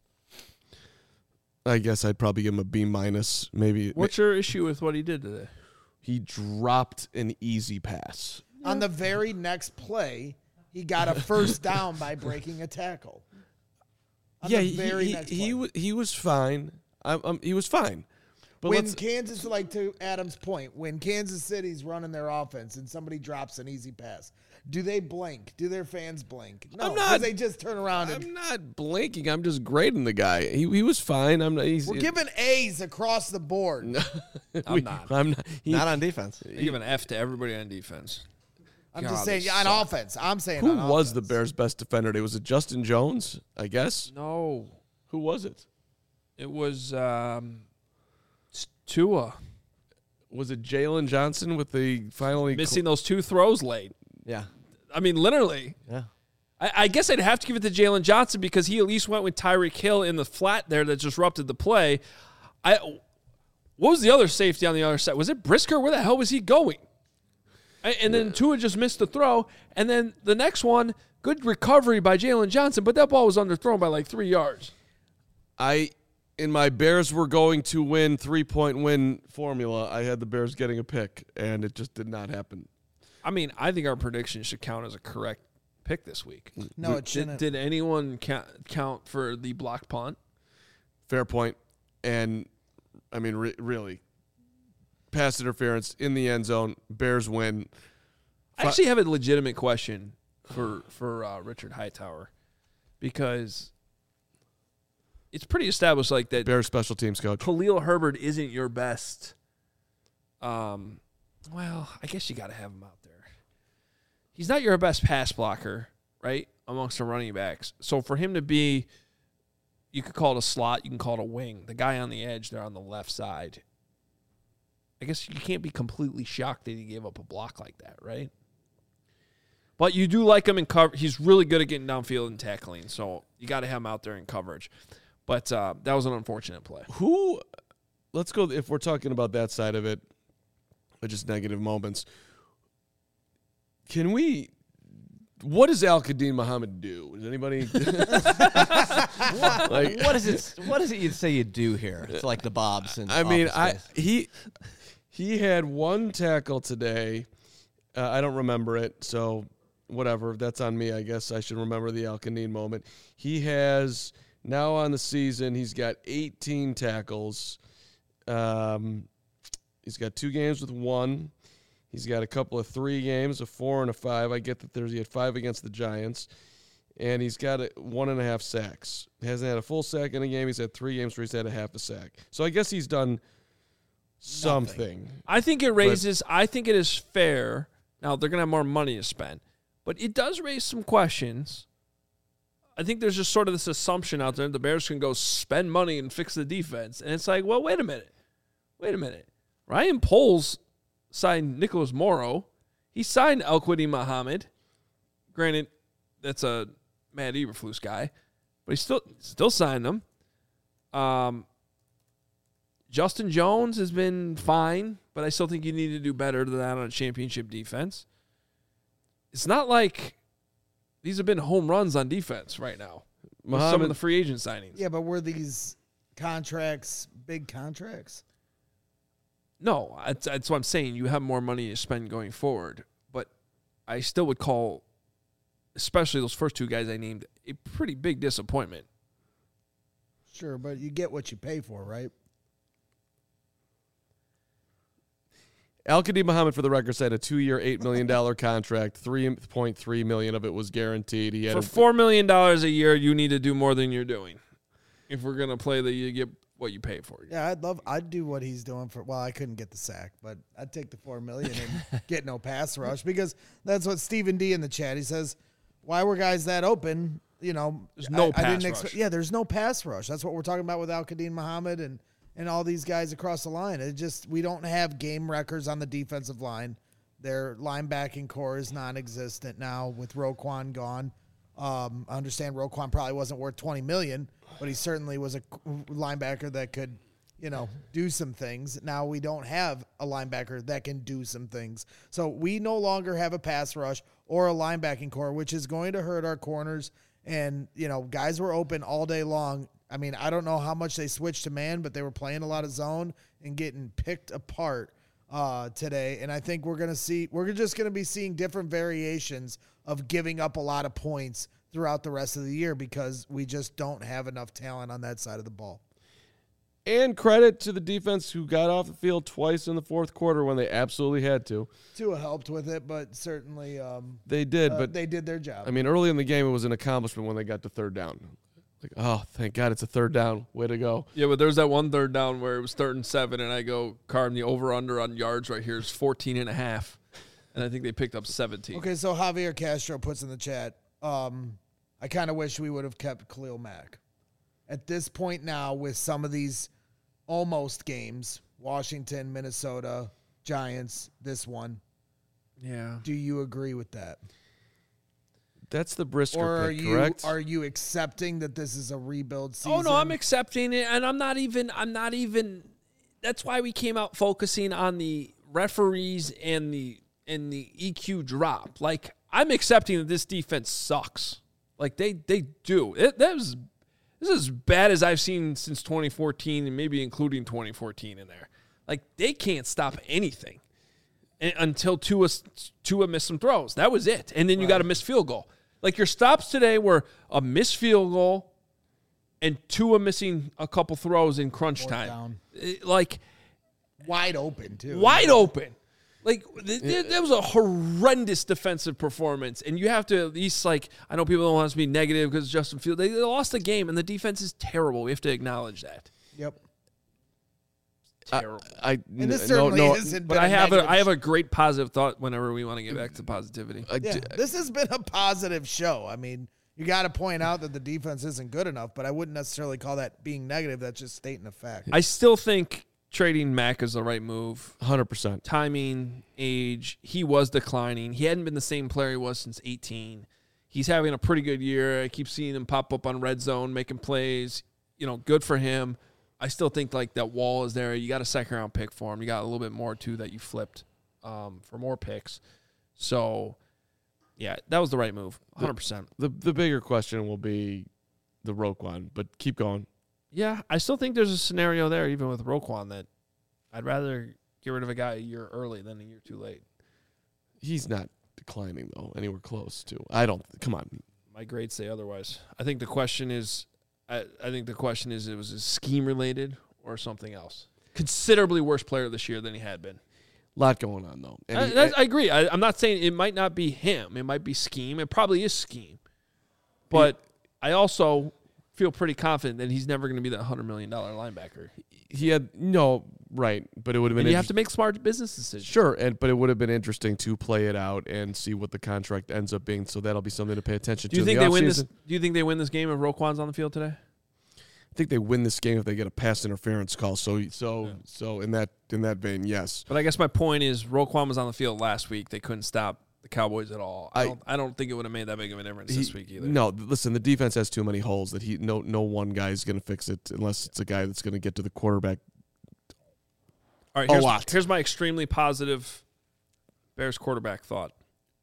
I guess I'd probably give him a B minus. Maybe. What's your issue with what he did today? He dropped an easy pass. On the very next play, he got a first down by breaking a tackle. On yeah, the he very he, next he, play. wa- he was fine. Um, um, he was fine. But when let's, Kansas, like to Adam's point, when Kansas City's running their offense and somebody drops an easy pass, do they blink? Do their fans blink? No, I'm 'cause not- they just turn around and I'm not blinking. I'm just grading the guy. He he was fine. I'm not. He's, we're giving A's across the board. I'm we- not. I'm not. He, Not on defense. I give an F to everybody on defense. I'm God, just they saying on suck. offense. I'm saying who on was the offense. Bears' best defender today? Was it Justin Jones? I guess. No. Who was it? It was um, it's Tua Was it Jalen Johnson with the finally missing those two throws late. Yeah. I mean, literally. Yeah. I, I guess I'd have to give it to Jalen Johnson because he at least went with Tyreek Hill in the flat there that disrupted the play. I what was the other safety on the other side? Was it Brisker? Where the hell was he going? I- And then Tua just missed the throw. And then the next one, good recovery by Jalen Johnson, but that ball was underthrown by like three yards. I in my Bears were going to win three point win formula. I had the Bears getting a pick, and it just did not happen. I mean, I think our prediction should count as a correct pick this week. No, it Did, shouldn't. did anyone count, count for the blocked punt? Fair point. And I mean, re- really, pass interference in the end zone. Bears win. I actually have a legitimate question for for uh, Richard Hightower because it's pretty established like that Bears special teams coach. Khalil Herbert isn't your best. Um, well, I guess you got to have him out there. He's not your best pass blocker, right, amongst the running backs. So for him to be, you could call it a slot, you can call it a wing. The guy on the edge there on the left side. I guess you can't be completely shocked that he gave up a block like that, right? But you do like him in cover. He's really good at getting downfield and tackling, so you got to have him out there in coverage. But uh, that was an unfortunate play. Who? Let's go. If we're talking about that side of it, or just negative moments, can we? What does Al Qadim Muhammad do? Does anybody? like, What is it? What is it you'd say you do here? It's like the Bobs. And I mean, I Office Space. he he had one tackle today. Uh, I don't remember it, so whatever. That's on me. I guess I should remember the Al Qadim moment. He has now on the season. He's got eighteen tackles. Um, he's got two games with one. He's got a couple of three games, a four and a five. I get that there's he had five against the Giants, and he's got a, one and a half sacks. He hasn't had a full sack in a game. He's had three games where he's had a half a sack. So I guess he's done something. I think it raises. I think it is fair. Now they're gonna have more money to spend, but it does raise some questions. I think there's just sort of this assumption out there the Bears can go spend money and fix the defense, and it's like, well, wait a minute, wait a minute. Ryan Poles signed Nicholas Morrow. He signed El Qadim Muhammad. Granted, that's a Matt Eberflus guy, but he still still signed them. Um, Justin Jones has been fine, but I still think you need to do better than that on a championship defense. It's not like these have been home runs on defense right now. With some of Muhammad- the free agent signings. Yeah, but were these contracts big contracts? No, that's, that's what I'm saying. You have more money to spend going forward. But I still would call, especially those first two guys I named, a pretty big disappointment. Sure, but you get what you pay for, right? Al-Qadim Muhammad, for the record, signed a two-year, eight million dollars contract. three point three million dollars of it was guaranteed. He had For a, four million dollars a year, you need to do more than you're doing. If we're going to play the, you get what you pay for. Yeah, I'd love. I'd do what he's doing for. Well, I couldn't get the sack, but I'd take the four million and get no pass rush because that's what Stephen D in the chat. He says, "Why were guys that open? You know, There's no I, pass I didn't rush. expect. Yeah, there's no pass rush. That's what we're talking about with Al-Qadim Muhammad and and all these guys across the line. It just we don't have game records on the defensive line. Their linebacking core is non-existent now with Roquan gone. Um, I understand Roquan probably wasn't worth twenty million dollars, but he certainly was a linebacker that could, you know, do some things. Now we don't have a linebacker that can do some things. So we no longer have a pass rush or a linebacking core, which is going to hurt our corners. And, you know, guys were open all day long. I mean, I don't know how much they switched to man, but they were playing a lot of zone and getting picked apart uh, today. And I think we're going to see, we're just going to be seeing different variations of giving up a lot of points throughout the rest of the year because we just don't have enough talent on that side of the ball. and credit to the defense who got off the field twice in the fourth quarter when they absolutely had to. Tua helped with it, but certainly um, They did, uh, but they did their job. I mean, early in the game, it was an accomplishment when they got to third down. Like, oh, thank God it's a third down. Way to go. Yeah, but there's that one third down where it was third and seven, and I go, Carm, the over-under on yards right here is fourteen and a half. And I think they picked up seventeen. Okay, so Javier Castro puts in the chat, um, I kind of wish we would have kept Khalil Mack. At this point now, with some of these almost games, Washington, Minnesota, Giants, this one, Yeah. do you agree with that? That's the Brisker Or are pick, you correct? are you accepting that this is a rebuild season? Oh no, I'm accepting it, and I'm not even. I'm not even. That's why we came out focusing on the referees and the and the E Q drop. Like I'm accepting that this defense sucks. Like they they do. It, that was this is as bad as I've seen since twenty fourteen, and maybe including twenty fourteen in there. Like they can't stop anything and, until Tua Tua missed some throws. That was it, and then you got a missed field goal. Like your stops today were a missed field goal and Tua missing a couple throws in crunch Fourth time. down. It- Like Wide open, too. wide open. Like th- th- that was a horrendous defensive performance, and you have to at least like I know people don't want us to be negative because Justin Fields they, they lost the game and the defense is terrible. We have to acknowledge that. Yep. Terrible. I, And this no, certainly no, isn't but been I have a negative I have a great positive thought whenever we want to get back to positivity. I Yeah, d- this has been a positive show. I mean, you got to point out that the defense isn't good enough, but I wouldn't necessarily call that being negative. That's just stating a fact. I still think trading Mack is the right move. one hundred percent. Timing, age, he was declining. He hadn't been the same player he was since eighteen. He's having a pretty good year. I keep seeing him pop up on red zone, making plays. You know, good for him. I still think like that wall is there. You got a second round pick for him. You got a little bit more too that you flipped um, for more picks. So, yeah, that was the right move, one hundred percent. The the bigger question will be the Roquan, but keep going. Yeah, I still think there's a scenario there, even with Roquan, that I'd rather get rid of a guy a year early than a year too late. He's not declining though, anywhere close to. I don't. Come on. My grades say otherwise. I think the question is, I, I think the question is, it was scheme related or something else. Considerably worse player this year than he had been. Lot going on though. And I, he- that's- I agree. I, I'm not saying it might not be him. It might be scheme. It probably is scheme. But I also feel pretty confident that he's never going to be that one hundred million dollars linebacker. he had no right, but it would have been. And you have to interest- make smart business decisions. Sure, and but it would have been interesting to play it out and see what the contract ends up being. So that'll be something to pay attention Do you to. think in they the win this? offseason. Do you think they win this game if Roquan's on the field today? I think they win this game if they get a pass interference call. So so Yeah. so in that in that vein, yes. But I guess my point is Roquan was on the field last week. They couldn't stop the Cowboys at all. I, I- don't, I don't think it would have made that big of a difference He- this week either. No, listen, the defense has too many holes that he no no one guy is going to fix it unless it's a guy that's going to get to the quarterback All right, A here's, lot. here's my extremely positive Bears quarterback thought.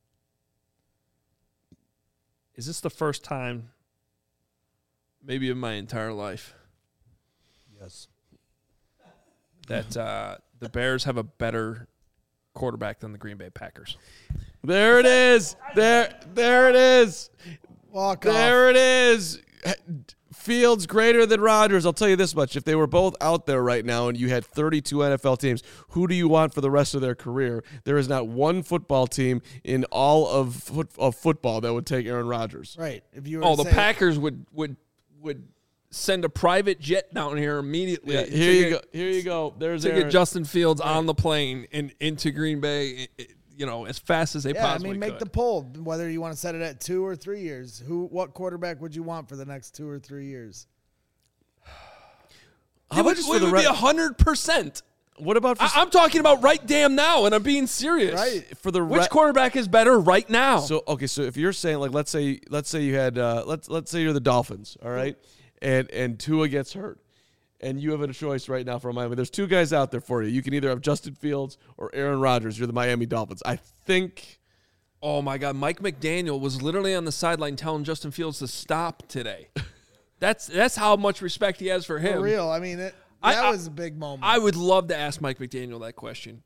Is this the first time, maybe in my entire life, Yes. that uh, the Bears have a better quarterback than the Green Bay Packers? There it is. There, there it is. Walk off. There it is. Fields greater than Rodgers. I'll tell you this much. If they were both out there right now and you had thirty-two N F L teams, who do you want for the rest of their career? There is not one football team in all of, foot, of football that would take Aaron Rodgers. Right. If you were Oh, to the say- Packers would would would send a private jet down here immediately. Yeah, to here you get- go. Here you go. There's To Aaron. get Justin Fields on the plane and into Green Bay, i- i- you know, as fast as they Yeah, I possibly mean, make could. the poll whether you want to set it at two or three years. Who, what quarterback would you want for the next two or three years? How it about would, just it for the would be re- a hundred percent. What about for, I- I'm talking about right damn now, and I'm being serious. Right. for the Which re- quarterback is better right now? So okay, so if you're saying like let's say let's say you had uh, let's let's say you're the Dolphins, all right, and and Tua gets hurt, and you have a choice right now for Miami. There's two guys out there for you. You can either have Justin Fields or Aaron Rodgers. You're the Miami Dolphins. I think. Oh my God, Mike McDaniel was literally on the sideline telling Justin Fields to stop today. That's that's how much respect he has for him. For real. I mean, it, I- that I- was a big moment. I would love to ask Mike McDaniel that question.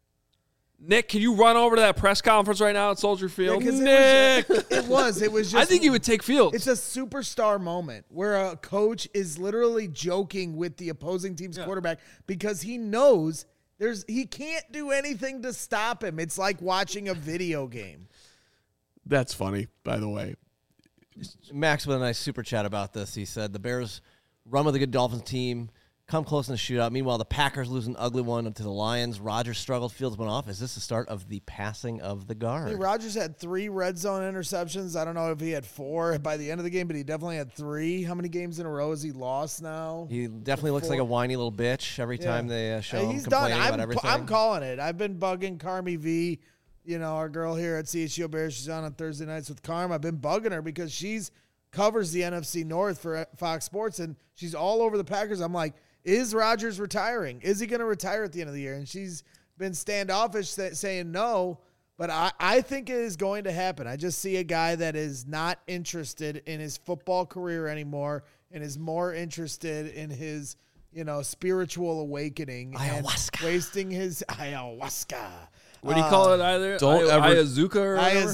Nick, can you run over to that press conference right now at Soldier Yeah, Field? 'cause Nick, It was, it was. It was just. I think he would take Fields. It's a superstar moment where a coach is literally joking with the opposing team's Yeah. quarterback because he knows there's he can't do anything to stop him. It's like watching a video game. That's funny, by the way. Max with a nice super chat about this. He said the Bears run with a good Dolphins team, come close in the shootout. Meanwhile, the Packers lose an ugly one to the Lions. Rodgers struggled. Fields went off. Is this the start of the passing of the guard? Hey, Rodgers had three red zone interceptions. I don't know if he had four by the end of the game, but he definitely had three. How many games in a row has he lost now? He definitely looks like a whiny little bitch every time they uh, show Hey, him he's done. complaining I'm, about everything. I'm calling it. I've been bugging Carmi V, you know, our girl here at C H G O Bears. She's on on Thursday nights with Carm. I've been bugging her because she's covers the N F C North for Fox Sports, and she's all over the Packers. I'm like, is Rodgers retiring? Is he going to retire at the end of the year? And she's been standoffish say, saying no, but I, I think it is going to happen. I just see a guy that is not interested in his football career anymore and is more interested in his, you know, spiritual awakening Ayahuasca. and wasting his ayahuasca. what do you call it either? don't I- ever- Ayazuka or whatever?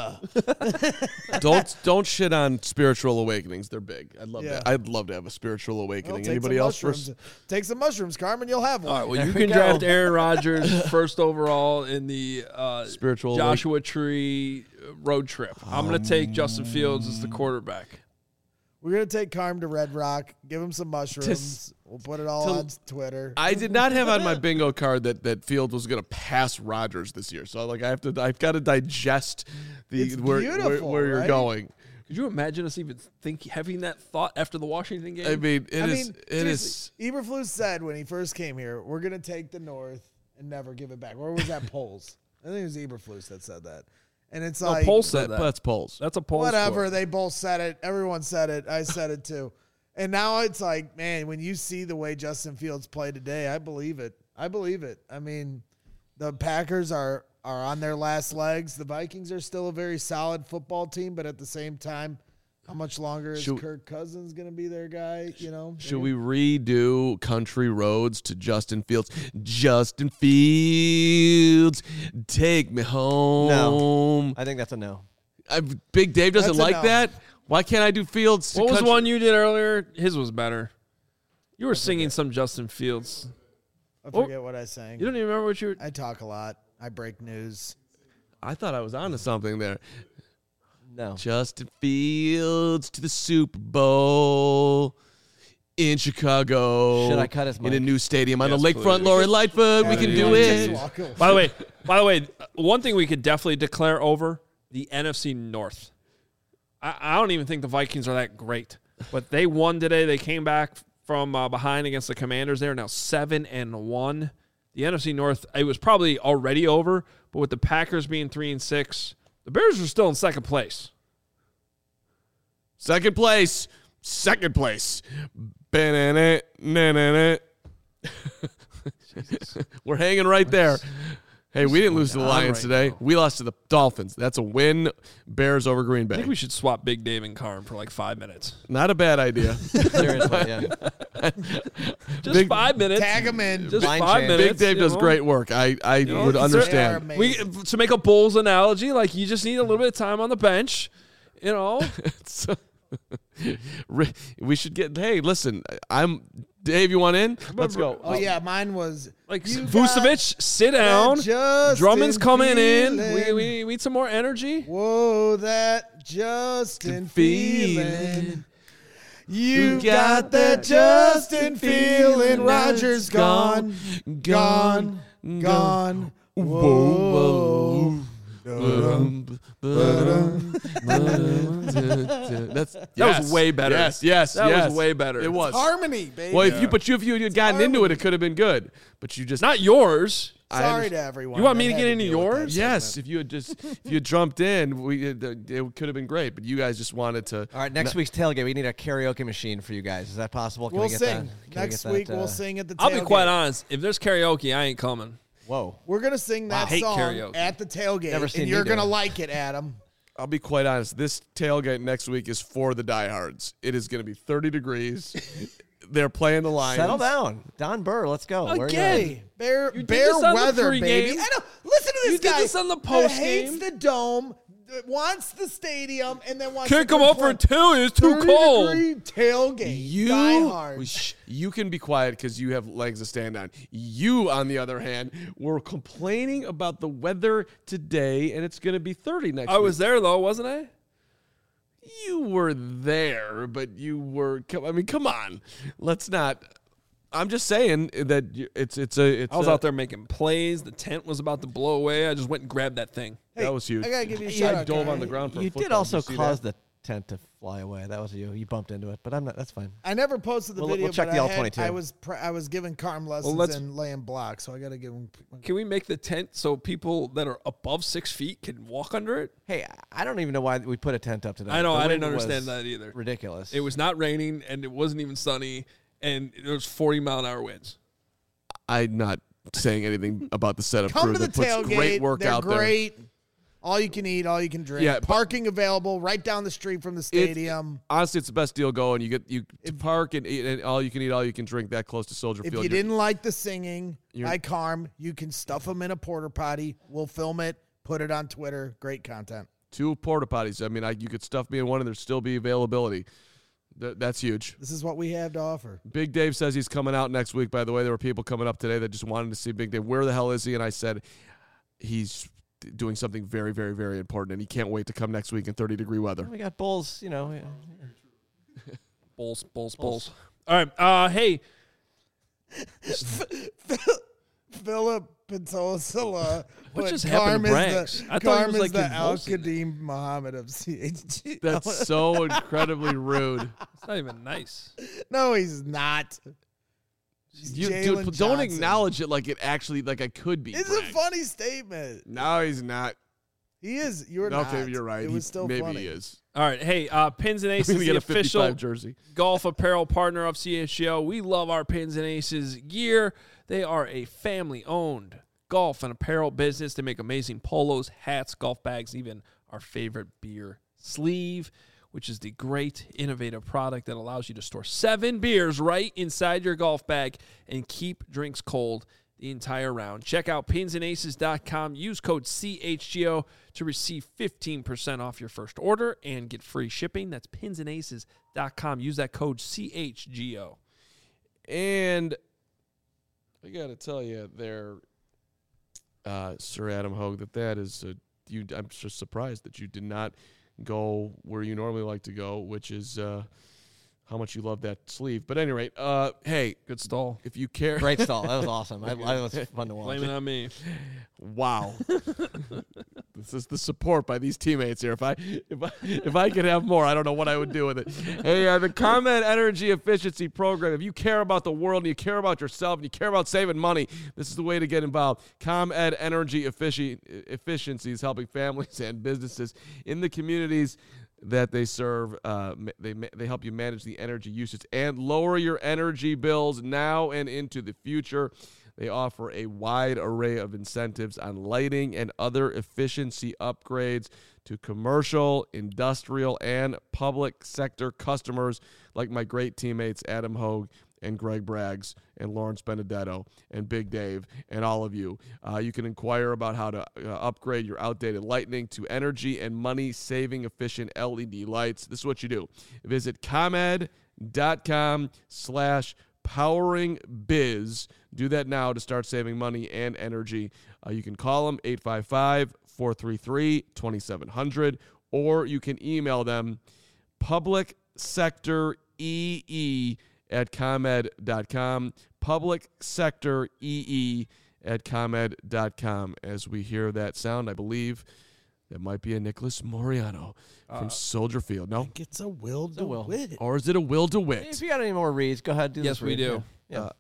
Ayazuka. don't don't shit on spiritual awakenings. They're big. I'd love Yeah. that. I'd love to have a spiritual Well, awakening. take Anybody some else? mushrooms. First? Take some mushrooms, Carmen. You'll have one. All right, well, you There we can draft go. Aaron Rodgers first overall in the uh, Spiritual Joshua Tree road trip. I'm going to take Justin Fields as the quarterback. We're gonna take Carm to Red Rock. Give him some mushrooms. Tis- we'll put it all till- on Twitter. I did not have on my bingo card that, that Fields was going to pass Rodgers this year. So like I have to I've got to digest the It's where, where, beautiful, where you're right? going. Could you imagine us even think having that thought after the Washington game? I mean, it I is mean, it is seriously, Eberflus said when he first came here, we're gonna take the North and never give it back. Where was that polls? I think it was Eberflus that said that. And it's no, like Poll said that, that. that's polls. That's a poll whatever. score. They both said it. Everyone said it. I said it too. And now it's like, man, when you see the way Justin Fields played today, I believe it. I believe it. I mean, the Packers are are on their last legs. The Vikings are still a very solid football team, but at the same time, how much longer is Should- Kirk Cousins going to be their guy? You know, Should we redo Country Roads to Justin Fields? Justin Fields, take me home. I think that's a no. I, Big Dave doesn't That's a like no. that. Why can't I do Fields? to What was Country- one you did earlier? His was better. You were singing some Justin Fields. I forget what I sang. You don't even remember what you were. I talk a lot. I break news. I thought I was onto something there. No. Justin Fields to the Super Bowl in Chicago. Should I cut his in a mic? new stadium on Yes, the lakefront? please. Lori Lightfoot, we Yeah, can you do wanna it. just walk away. By the way, by the way, one thing we could definitely declare over the N F C North. I, I don't even think the Vikings are that great, but they won today. They came back from uh, behind against the Commanders. They're now seven and one. The N F C North, it was probably already over, but with the Packers being three and six, the Bears are still in second place. Second place. Second place. Ba-na-na, na-na-na. We're hanging right there. Hey, we didn't lose to the down Lions right today. now. We lost to the Dolphins. That's a win. Bears over Green I Bay. think we should swap Big Dave and Carm for like five minutes. Not a bad idea. Seriously, yeah. Just Big- five minutes. Tag him in. Just Blind five change. minutes. Big Dave you does know? great work. I, I know, would it's- understand. They are We to make a Bulls analogy, like you just need a little bit of time on the bench. You know, So- Ri- we should get. Hey, listen, I'm Dave. You want in? Let's go. Oh yeah, mine was like You Vucevic, sit down. that Justin Drummond's coming in. We, feeling. we we need some more energy. Whoa, that Justin Feeling. feeling. You got that Justin feeling. Rogers gone, gone, gone. Whoa. That's That yes. was way better. Yes, yes, That yes. was way better. It was. Harmony, baby. Well, if you but you if you had gotten into it, it could have been good. But you just Not yours. I Sorry understand. to everyone. You want me that to had get into deal with that yours? Yes, segment. if you had just if you had jumped in, we it, it could have been great. But you guys just wanted to. All right, next week's tailgate, we need a karaoke machine for you guys. Is that possible? Can We'll we get sing. that? Can we Next get that, week, uh, we'll sing at the I'll be tailgate. quite honest. If there's karaoke, I ain't coming. Whoa. We're going to sing that Wow. Hate song karaoke. at the tailgate, Never seen and you you're do going to it. like it, Adam. I'll be quite honest. This tailgate next week is for the diehards. It is going to be thirty degrees. They're playing the Lions. Settle down. Don Burr, let's go. Where are you Again. at? Hey, bear, You did bear this on the weather, pregame. baby. I know. Listen to this You did guy. this on the that postgame. hates the dome, that wants the stadium, and then wants Can't to come up for complain. two. It's too thirty cold. degree tailgate. You, Die hard. Shh, you can be quiet because you have legs to stand on. You, on the other hand, were complaining about the weather today, and it's going to be thirty next I week. was there though, wasn't I? You were there, but you were. come- I mean, come on. Let's not. I'm just saying that you- it's it's a. It's I was a- out there making plays. The tent was about to blow away. I just went and grabbed that thing. That was huge. I gotta give you a You shout I out, dove Carl. on the ground for a You football. did also you see cause that? the tent to fly away. That was you. You bumped into it, but I'm not. That's fine. I never posted the We'll- video. we'll check but the I L had- twenty-two. I was pr- I was giving Carm lessons let's- and laying blocks, so I got to give him. Can we make the tent so people that are above six feet can walk under it? Hey, I don't even know why we put a tent up today. I know. The I didn't wind understand was that either. Ridiculous. It was not raining and it wasn't even sunny, and there was forty mile an hour winds. I'm not saying anything about the setup Come crew to the that puts tailgate. great work They're out there. great. All you can eat, all you can drink. Yeah, but- Parking available right down the street from the stadium. Honestly, it's the best deal going. You get you to park and eat, and all you can eat, all you can drink. That close to Soldier If Field. you You're- didn't like the singing You're- by Carm, you can stuff them in a porta potty. We'll film it, put it on Twitter. Great content. two porta potties. I mean, I, you could stuff me in one, and there'd still be availability. Th- that's huge. This is what we have to offer. Big Dave says he's coming out next week. By the way, there were people coming up today that just wanted to see Big Dave. Where the hell is he? And I said he's doing something very, very, very important, and he can't wait to come next week in thirty degree weather. we got Bulls. You know. yeah. Bulls, bulls, bulls. All right. Uh, hey, Philip Pintosala. What just happened to Branks? I thought he Carm was, is like, the Al convulsing. Qadim Muhammad of C H G. That's so incredibly rude. it's not even nice. No, he's not. He's You, Jalen dude, don't Johnson. acknowledge it like it actually, like I could be. It's Branks. a funny statement. No, he's not. He is. You're Okay, not. you're right. It He- was still maybe funny. he is. All right. Hey, uh, Pins and I'm Aces, gonna the get a official fifty-five jersey. golf apparel partner of C H G O. We love our Pins and Aces gear. They are a family-owned golf and apparel business. They make amazing polos, hats, golf bags, even our favorite beer sleeve, which is the great innovative product that allows you to store seven beers right inside your golf bag and keep drinks cold the entire round. Check out pins and aces dot com. Use code C H G O to receive fifteen percent off your first order and get free shipping. That's pins and aces dot com. Use that code C H G O. And I got to tell you there, uh, Sir Adam Hogue, that that is, a, you. I'm just surprised that you did not go where you normally like to go, which is uh, how much you love that sleeve. But at any rate, uh, hey, Good stall. if you care. Great stall. That was awesome. I, I was fun to watch. Blame it on me. Wow. This is the support by these teammates here. If I if I if I could have more, I don't know what I would do with it. Hey, uh, the ComEd Energy Efficiency Program. If you care about the world and you care about yourself and you care about saving money, this is the way to get involved. ComEd Energy Effici- Efficiency is helping families and businesses in the communities that they serve. Uh, ma- they ma- they help you manage the energy usage and lower your energy bills now and into the future. They offer a wide array of incentives on lighting and other efficiency upgrades to commercial, industrial, and public sector customers like my great teammates Adam Hogue and Greg Braggs and Lawrence Benedetto and Big Dave and all of you. Uh, you can inquire about how to uh, upgrade your outdated lighting to energy and money-saving efficient L E D lights. This is what you do. Visit ComEd.com slash powering biz. Do that now to start saving money and energy. Uh, you can call them eight five five, four three three, two seven zero zero, or you can email them public sector E E at ComEd dot com, public sector E E at ComEd dot com. As we hear that sound, I believe that might be a Nicholas Moriano from Uh, Soldier Field. No? It's a Will a Will. DeWitt. Or is it a Will DeWitt? If you got any more reads, go ahead. Do Yes, this we read. do. Yeah. Uh,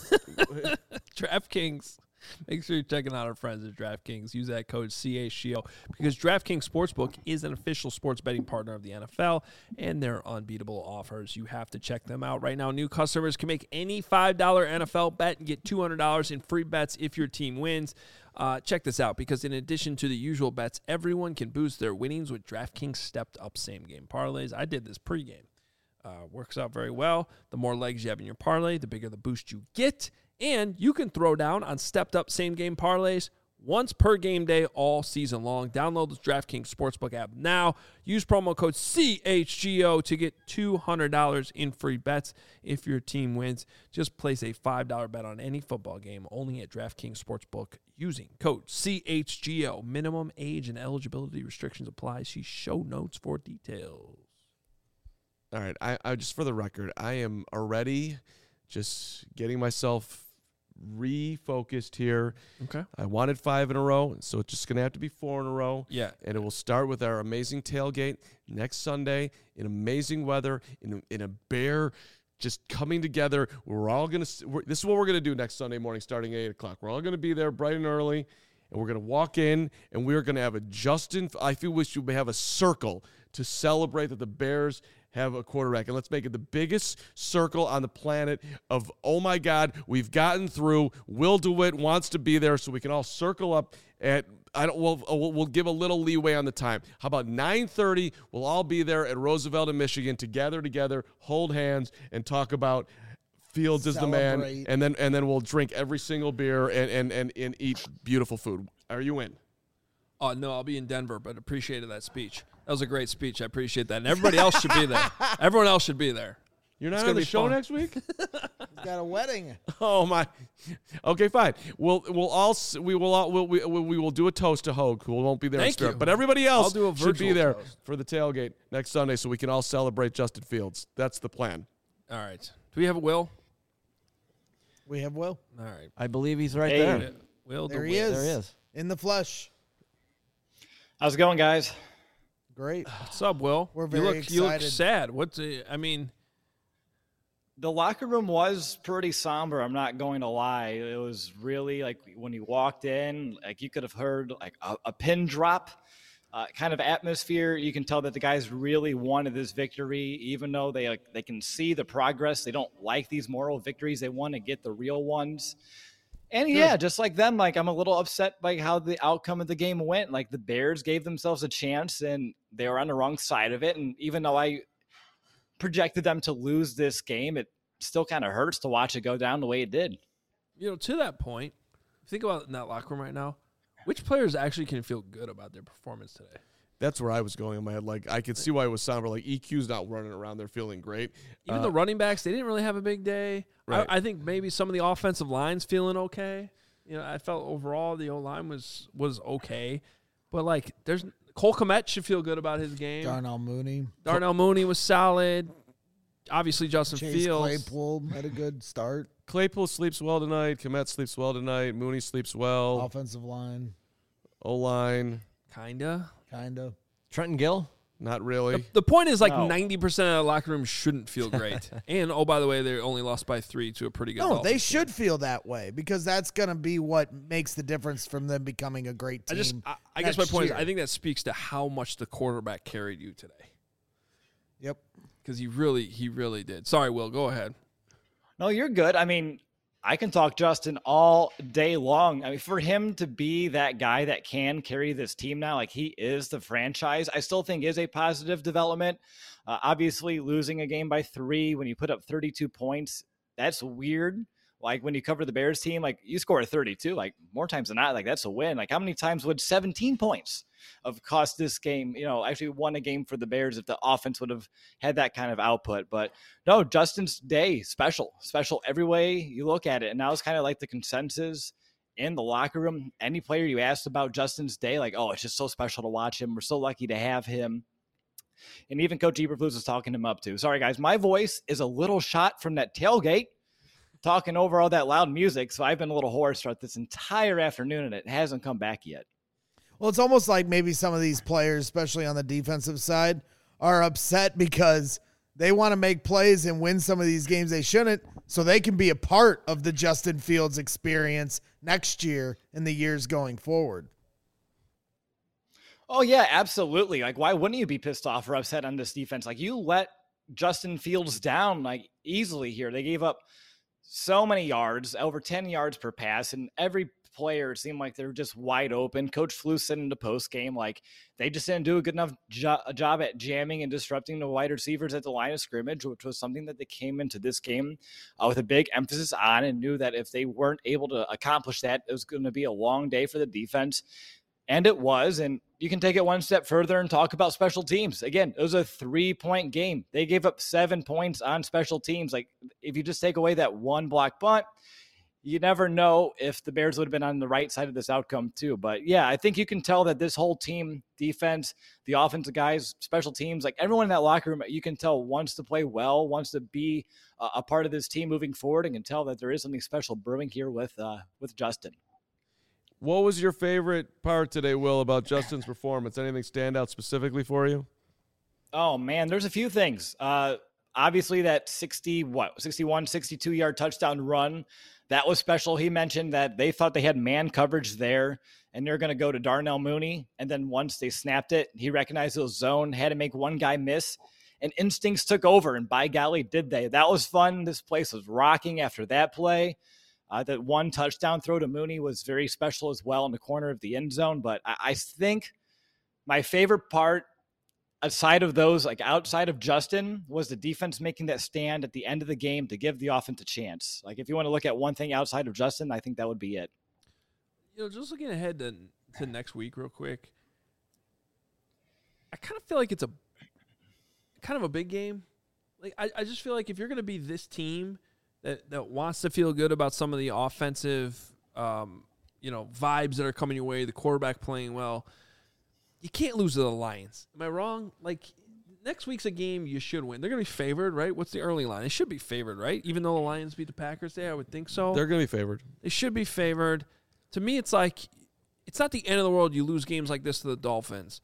DraftKings. Make sure you're checking out our friends at DraftKings. Use that code C H G O because DraftKings Sportsbook is an official sports betting partner of the N F L, and their unbeatable offers. You have to check them out right now. New customers can make any five dollar N F L bet and get two hundred dollars in free bets if your team wins. Uh, check this out because in addition to the usual bets, everyone can boost their winnings with DraftKings stepped-up same-game parlays. I did this pregame. Uh, works out very well. The more legs you have in your parlay, the bigger the boost you get. And you can throw down on stepped-up same-game parlays once per game day all season long. Download the DraftKings Sportsbook app now. Use promo code C H G O to get two hundred dollars in free bets if your team wins. Just place a five dollar bet on any football game only at DraftKings Sportsbook using code C H G O. Minimum age and eligibility restrictions apply. See show notes for details. All right. I, I just for the record, I am already just getting myself refocused here. Okay. I wanted five in a row, so it's just going to have to be four in a row. Yeah. And it will start with our amazing tailgate next Sunday in amazing weather, in a, in a bear just coming together. We're all going to, this is what we're going to do next Sunday morning starting at eight o'clock. We're all going to be there bright and early, and we're going to walk in, and we're going to have a Justin, I feel we should have a circle to celebrate that the Bears have a quarterback. And let's make it the biggest circle on the planet of, oh my God, we've gotten through. Will DeWitt wants to be there, so we can all circle up at, I don't, we'll, we'll, we'll give a little leeway on the time. How about nine thirty? We'll all be there at Roosevelt in Michigan to gather together, hold hands, and talk about Fields is the man. Celebrate. And then and then we'll drink every single beer and, and, and, and eat beautiful food. Are you in? Oh, no, I'll be in Denver, but appreciated that speech. That was a great speech. I appreciate that. And everybody else should be there. Everyone else should be there. You're not It's on gonna the be show fun. next week? He's got a wedding. Oh my. Okay, fine. We'll we'll all s- we will all we'll, we we will do a toast to Hogue, who won't be there. in Thank spirit. you. But everybody else I'll do a should be virtual there toast. for the tailgate next Sunday, so we can all celebrate Justin Fields. That's the plan. All right. Do we have a Will? We have Will. All right. I believe he's right Hey. there. Will There DeWitt. he is. There he is. In the flesh. How's it going, guys? Great. What's up, Will? We're you very look, You look excited. sad. What's uh, I mean, The locker room was pretty somber. I'm not going to lie. It was really like when you walked in, like you could have heard like a, a pin drop uh, kind of atmosphere. You can tell that the guys really wanted this victory, even though they like, they can see the progress. They don't like these moral victories. They want to get the real ones. And yeah, just like them, like I'm a little upset by how the outcome of the game went. Like the Bears gave themselves a chance and they were on the wrong side of it. And even though I projected them to lose this game, it still kind of hurts to watch it go down the way it did. you know, to that point, think about in that locker room right now. Which players actually can feel good about their performance today? That's where I was going in my head. Like I could see why it was somber. Like E Q's not running around there feeling great. Even Uh, the running backs, they didn't really have a big day. Right. I, I think maybe some of the offensive lines feeling okay. You know, I felt overall the O line was was okay, but like there's Cole Kmet should feel good about his game. Darnell Mooney. Darnell Mooney was solid. Obviously, Justin Chase Fields. Claypool had a good start. Claypool sleeps well tonight. Komet sleeps well tonight. Mooney sleeps well. Offensive line, O line, Kinda. kind of. Trenton Gill. not really. The, the point is, like No. ninety percent of the locker room shouldn't feel great. And oh, by the way, they only lost by three to a pretty good. No, Dolphins they team. should feel that way because that's going to be what makes the difference from them becoming a great I team. just, I, I guess my next point year. is, I think that speaks to how much the quarterback carried you today, Yep. because he really, he really did. Sorry, Will, go ahead. No, you're good. I mean, I can talk Justin all day long. I mean, for him to be that guy that can carry this team now, like he is the franchise, I still think is a positive development. Uh, obviously, losing a game by three when you put up thirty-two points, that's weird. Like when you cover the Bears team, like you score thirty-two, like more times than not, like that's a win. Like how many times would seventeen points have cost this game, you know, actually won a game for the Bears if the offense would have had that kind of output? But no, Justin's day, special, special every way you look at it. And now it's kind of like the consensus in the locker room. Any player you asked about Justin's day, like, oh, it's just so special to watch him. We're so lucky to have him. And even Coach Eberflus was talking him up too. Sorry, guys, my voice is a little shot from that tailgate, talking over all that loud music. So I've been a little hoarse throughout this entire afternoon, and it hasn't come back yet. Well, it's almost like maybe some of these players, especially on the defensive side, are upset because they want to make plays and win some of these games they shouldn't, so they can be a part of the Justin Fields experience next year and the years going forward. Oh, yeah, absolutely. Like, why wouldn't you be pissed off or upset on this defense? Like, you let Justin Fields down, like, easily here. They gave up so many yards, over ten yards per pass, and every player seemed like they're just wide open. Coach Flus said in the post game, like they just didn't do a good enough jo- job at jamming and disrupting the wide receivers at the line of scrimmage, which was something that they came into this game uh, with a big emphasis on, and knew that if they weren't able to accomplish that, it was going to be a long day for the defense. And it was. And you can take it one step further and talk about special teams. Again, it was a three-point game. They gave up seven points on special teams. Like, if you just take away that one block bunt, you never know if the Bears would have been on the right side of this outcome too. But yeah, I think you can tell that this whole team, defense, the offensive guys, special teams, like everyone in that locker room, you can tell wants to play well, wants to be a, a part of this team moving forward, and can tell that there is something special brewing here with uh, with Justin. What was your favorite part today, Will, about Justin's performance? Anything stand out specifically for you? Oh, man, there's a few things. Uh, obviously, that sixty, what, sixty-one, sixty-two yard touchdown run, that was special. He mentioned that they thought they had man coverage there, and they're going to go to Darnell Mooney. And then once they snapped it, he recognized it was zone, had to make one guy miss, and instincts took over. And by golly, did they. That was fun. This place was rocking after that play. Uh, that one touchdown throw to Mooney was very special as well in the corner of the end zone. But I, I think my favorite part, aside of those, like outside of Justin, was the defense making that stand at the end of the game to give the offense a chance. Like if you want to look at one thing outside of Justin, I think that would be it. You know, just looking ahead to, to next week real quick, I kind of feel like it's a kind of a big game. Like I, I just feel like if you're going to be this team that, that wants to feel good about some of the offensive, um, you know, vibes that are coming your way, the quarterback playing well, you can't lose to the Lions. Am I wrong? Like, next week's a game you should win. They're going to be favored, right? What's the early line? They should be favored, right? Even though the Lions beat the Packers today, I would think so. They're going to be favored. They should be favored. To me, it's like, it's not the end of the world you lose games like this to the Dolphins.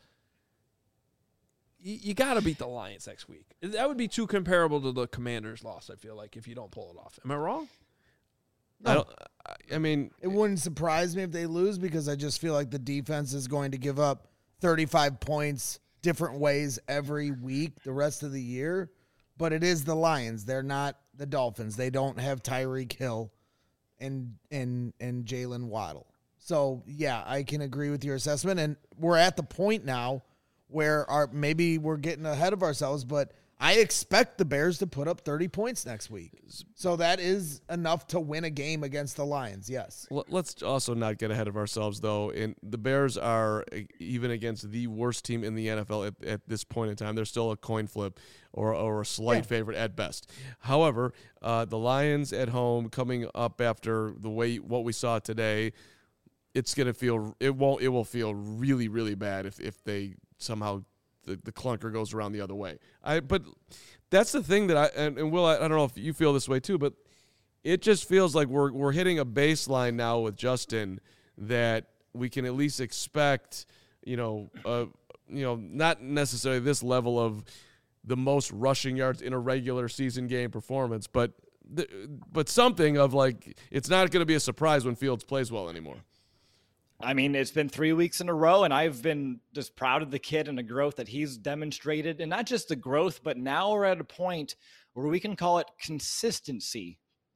You, you got to beat the Lions next week. That would be too comparable to the Commanders' loss, I feel like, if you don't pull it off. Am I wrong? No. I don't. I mean, it wouldn't surprise me if they lose because I just feel like the defense is going to give up thirty-five points different ways every week the rest of the year. But it is the Lions. They're not the Dolphins. They don't have Tyreek Hill and and and Jalen Waddle. So, yeah, I can agree with your assessment. And we're at the point now where our maybe we're getting ahead of ourselves, but I expect the Bears to put up thirty points next week. So that is enough to win a game against the Lions, yes. Let's also not get ahead of ourselves, though. And the Bears are, even against the worst team in the N F L at, at this point in time, they're still a coin flip or, or a slight yeah. favorite at best. However, uh, the Lions at home coming up after the way what we saw today, it's going to feel – it won't. It will feel really, really bad if, if they somehow – The, the clunker goes around the other way. I but that's the thing that I and, and Will, I, I don't know if you feel this way too, but it just feels like we're we're hitting a baseline now with Justin that we can at least expect, you know, uh, you know, not necessarily this level of the most rushing yards in a regular season game performance, but the, but something of like it's not going to be a surprise when Fields plays well anymore. I mean, it's been three weeks in a row, and I've been just proud of the kid and the growth that he's demonstrated. And not just the growth, but now we're at a point where we can call it consistency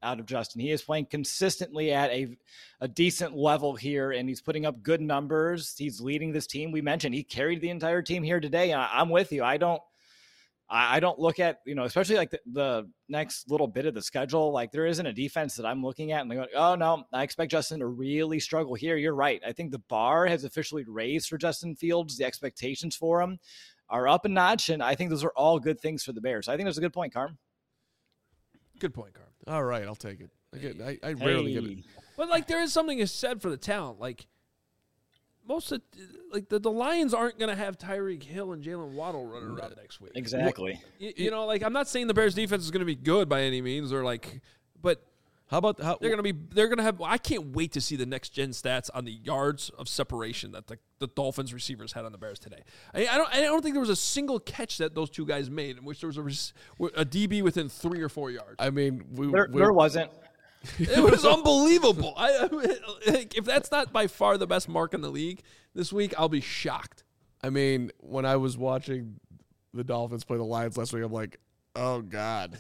out of Justin. He is playing consistently at a, a decent level here, and he's putting up good numbers. He's leading this team. We mentioned he carried the entire team here today, and I, I'm with you. I don't I don't look at, you know, especially like the, the next little bit of the schedule. Like there isn't a defense that I'm looking at and going, oh no, I expect Justin to really struggle here. You're right. I think the bar has officially raised for Justin Fields. The expectations for him are up a notch. And I think those are all good things for the Bears. I think that's a good point, Carm. Good point, Carm. All right, I'll take it. I, get, I, I rarely Hey. get it. But like there is something is said for the talent. Like most of like the, the Lions aren't going to have Tyreek Hill and Jalen Waddle running around next week. Exactly. You, you know, like I'm not saying the Bears defense is going to be good by any means, or like, but How about how? they're going to be they're going to have. I can't wait to see the next gen stats on the yards of separation that the, the Dolphins receivers had on the Bears today. I, I don't I don't think there was a single catch that those two guys made in which there was a, res- a D B within three or four yards. I mean, we, There, we there wasn't. It was unbelievable. I, I mean, like, if that's not by far the best mark in the league this week, I'll be shocked. I mean, when I was watching the Dolphins play the Lions last week, I'm like, oh God,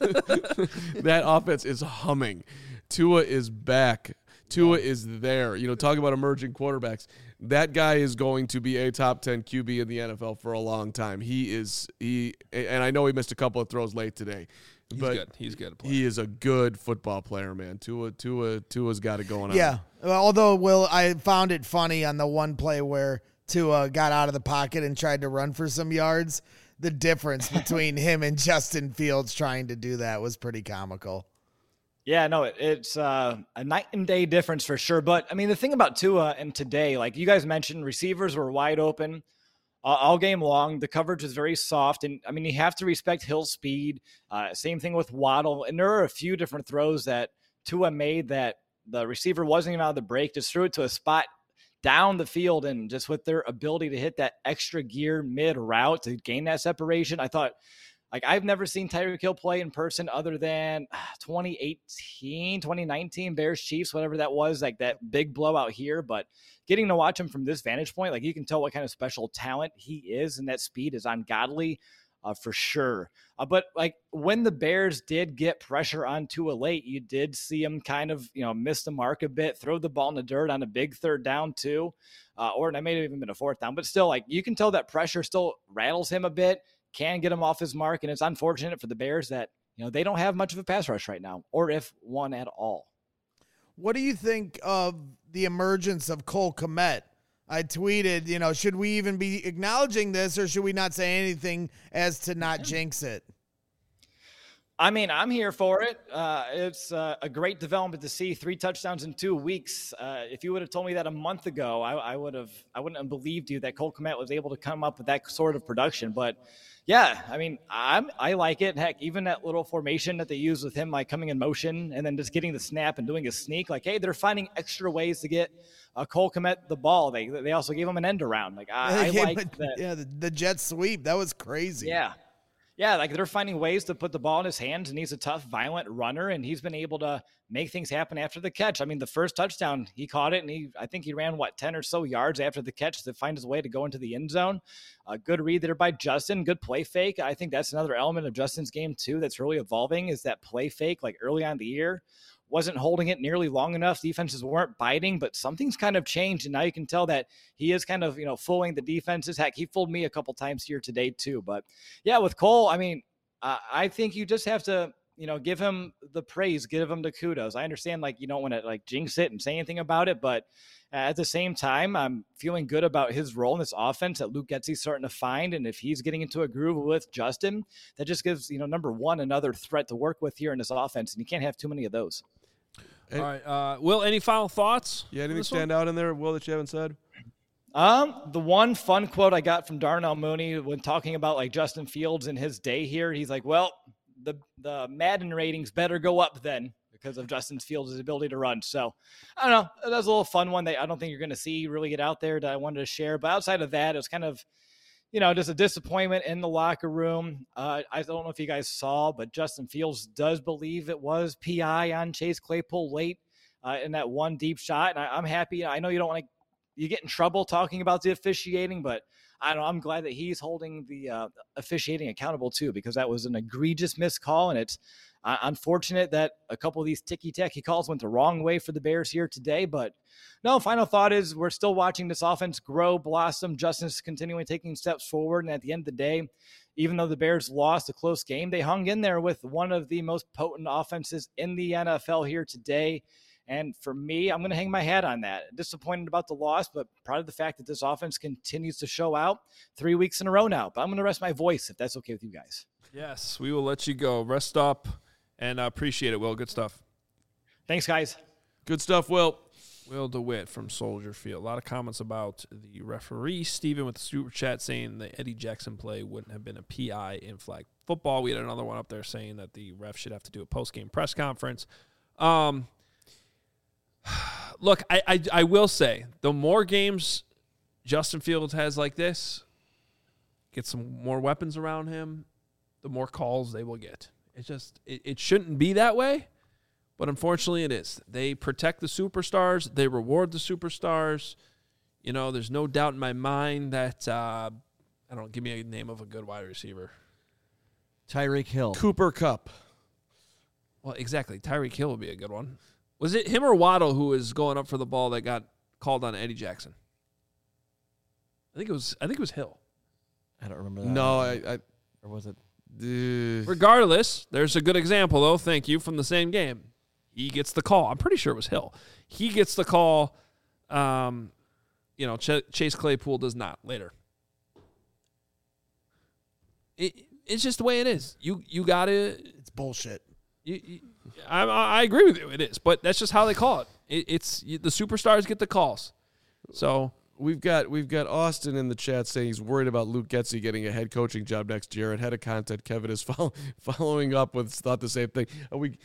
that offense is humming. Tua is back. Tua is there. You know, talking about emerging quarterbacks. That guy is going to be a top ten Q B in the N F L for a long time. He is he, and I know he missed a couple of throws late today. He's but good. He's good at playing. he is a good football player, man. Tua, Tua, Tua's got it going on. Yeah. Well, although, Will, I found it funny on the one play where Tua got out of the pocket and tried to run for some yards. The difference between him and Justin Fields trying to do that was pretty comical. Yeah, no, it, it's uh, a night and day difference for sure. But I mean, the thing about Tua and today, like you guys mentioned, receivers were wide open uh, all game long. The coverage is very soft. And I mean, you have to respect Hill's speed. Uh, same thing with Waddle. And there are a few different throws that Tua made that the receiver wasn't even out of the break, just threw it to a spot down the field. And just with their ability to hit that extra gear mid route to gain that separation, I thought, like, I've never seen Tyreek Hill play in person other than twenty eighteen, twenty nineteen Bears Chiefs, whatever that was, like that big blowout here. But getting to watch him from this vantage point, like you can tell what kind of special talent he is, and that speed is ungodly uh, for sure. Uh, but like when the Bears did get pressure on Tua late, you did see him kind of, you know, miss the mark a bit, throw the ball in the dirt on a big third down too. Uh, or it may have even been a fourth down, but still, like you can tell that pressure still rattles him a bit, can get him off his mark. And it's unfortunate for the Bears that, you know, they don't have much of a pass rush right now, or if one at all. What do you think of the emergence of Cole Kmet? I tweeted, you know, should we even be acknowledging this, or should we not say anything as to not jinx it? I mean, I'm here for it. Uh, it's uh, a great development to see three touchdowns in two weeks. Uh, if you would have told me that a month ago, I, I would have, I wouldn't have believed you that Cole Kmet was able to come up with that sort of production. But yeah, I mean, I'm, I like it. Heck, even that little formation that they use with him, like coming in motion and then just getting the snap and doing a sneak, like, hey, they're finding extra ways to get uh, Cole Kmet the ball. They, they also gave him an end around. Like I, I like that. Yeah, the, the jet sweep, that was crazy. Yeah. Yeah, like they're finding ways to put the ball in his hands, and he's a tough, violent runner, and he's been able to make things happen after the catch. I mean, the first touchdown, he caught it, and he, I think he ran, what, ten or so yards after the catch to find his way to go into the end zone. A good read there by Justin, good play fake. I think that's another element of Justin's game, too, that's really evolving, is that play fake, like early on in the year. Wasn't holding it nearly long enough. Defenses weren't biting, but something's kind of changed. And now you can tell that he is kind of, you know, fooling the defenses. Heck, he fooled me a couple times here today too. But yeah, with Cole, I mean, uh, I think you just have to, you know, give him the praise, give him the kudos. I understand, like, you don't want to like jinx it and say anything about it, but at the same time, I'm feeling good about his role in this offense that Luke Getsy's starting to find. And if he's getting into a groove with Justin, that just gives, you know, number one, another threat to work with here in this offense. And you can't have too many of those. All right, uh, Will, any final thoughts? Yeah, anything this stand one? out in there, Will, that you haven't said? Um, the one fun quote I got from Darnell Mooney when talking about like Justin Fields and his day here, he's like, well, the, the Madden ratings better go up then because of Justin Fields' ability to run. So I don't know. That was a little fun one that I don't think you're going to see really get out there that I wanted to share. But outside of that, it was kind of, you know, just a disappointment in the locker room. Uh, I don't know if you guys saw, but Justin Fields does believe it was P I on Chase Claypool late uh, in that one deep shot. And I, I'm happy. I know you don't want to, you get in trouble talking about the officiating, but I don't know, I'm glad that he's holding the uh, officiating accountable too, because that was an egregious missed call, and it's uh, unfortunate that a couple of these ticky-tacky calls went the wrong way for the Bears here today. But no, final thought is we're still watching this offense grow, blossom. Justin's continuing taking steps forward, and at the end of the day, even though the Bears lost a close game, they hung in there with one of the most potent offenses in the N F L here today. And for me, I'm going to hang my hat on that. Disappointed about the loss, but proud of the fact that this offense continues to show out three weeks in a row now. But I'm going to rest my voice if that's okay with you guys. Yes, we will let you go. Rest up, and I appreciate it, Will. Good stuff. Thanks, guys. Good stuff, Will. Will DeWitt from Soldier Field. A lot of comments about the referee. Steven with the super chat saying the Eddie Jackson play wouldn't have been a P I in flag football. We had another one up there saying that the ref should have to do a post-game press conference. Um, look, I, I I will say, the more games Justin Fields has like this, get some more weapons around him, the more calls they will get. It's just, it, it shouldn't be that way. But unfortunately, it is. They protect the superstars. They reward the superstars. You know, there's no doubt in my mind that, uh, I don't know, give me a name of a good wide receiver. Tyreek Hill. Cooper Kupp. Well, exactly. Tyreek Hill would be a good one. Was it him or Waddle who was going up for the ball that got called on Eddie Jackson? I think it was. I think it was Hill. I don't remember that. No, I. I or was it? uh, Regardless, there's a good example, though, thank you, from the same game. He gets the call. I'm pretty sure it was Hill. He gets the call. Um, you know, Ch- Chase Claypool does not later. It, it's just the way it is. You you got to. It's bullshit. You, you, I, I agree with you. It is, but that's just how they call it. it it's you, the superstars get the calls. So We've got we've got Austin in the chat saying he's worried about Luke Getsy getting a head coaching job next year. And head of content Kevin is follow, following up with thought the same thing. Uh, we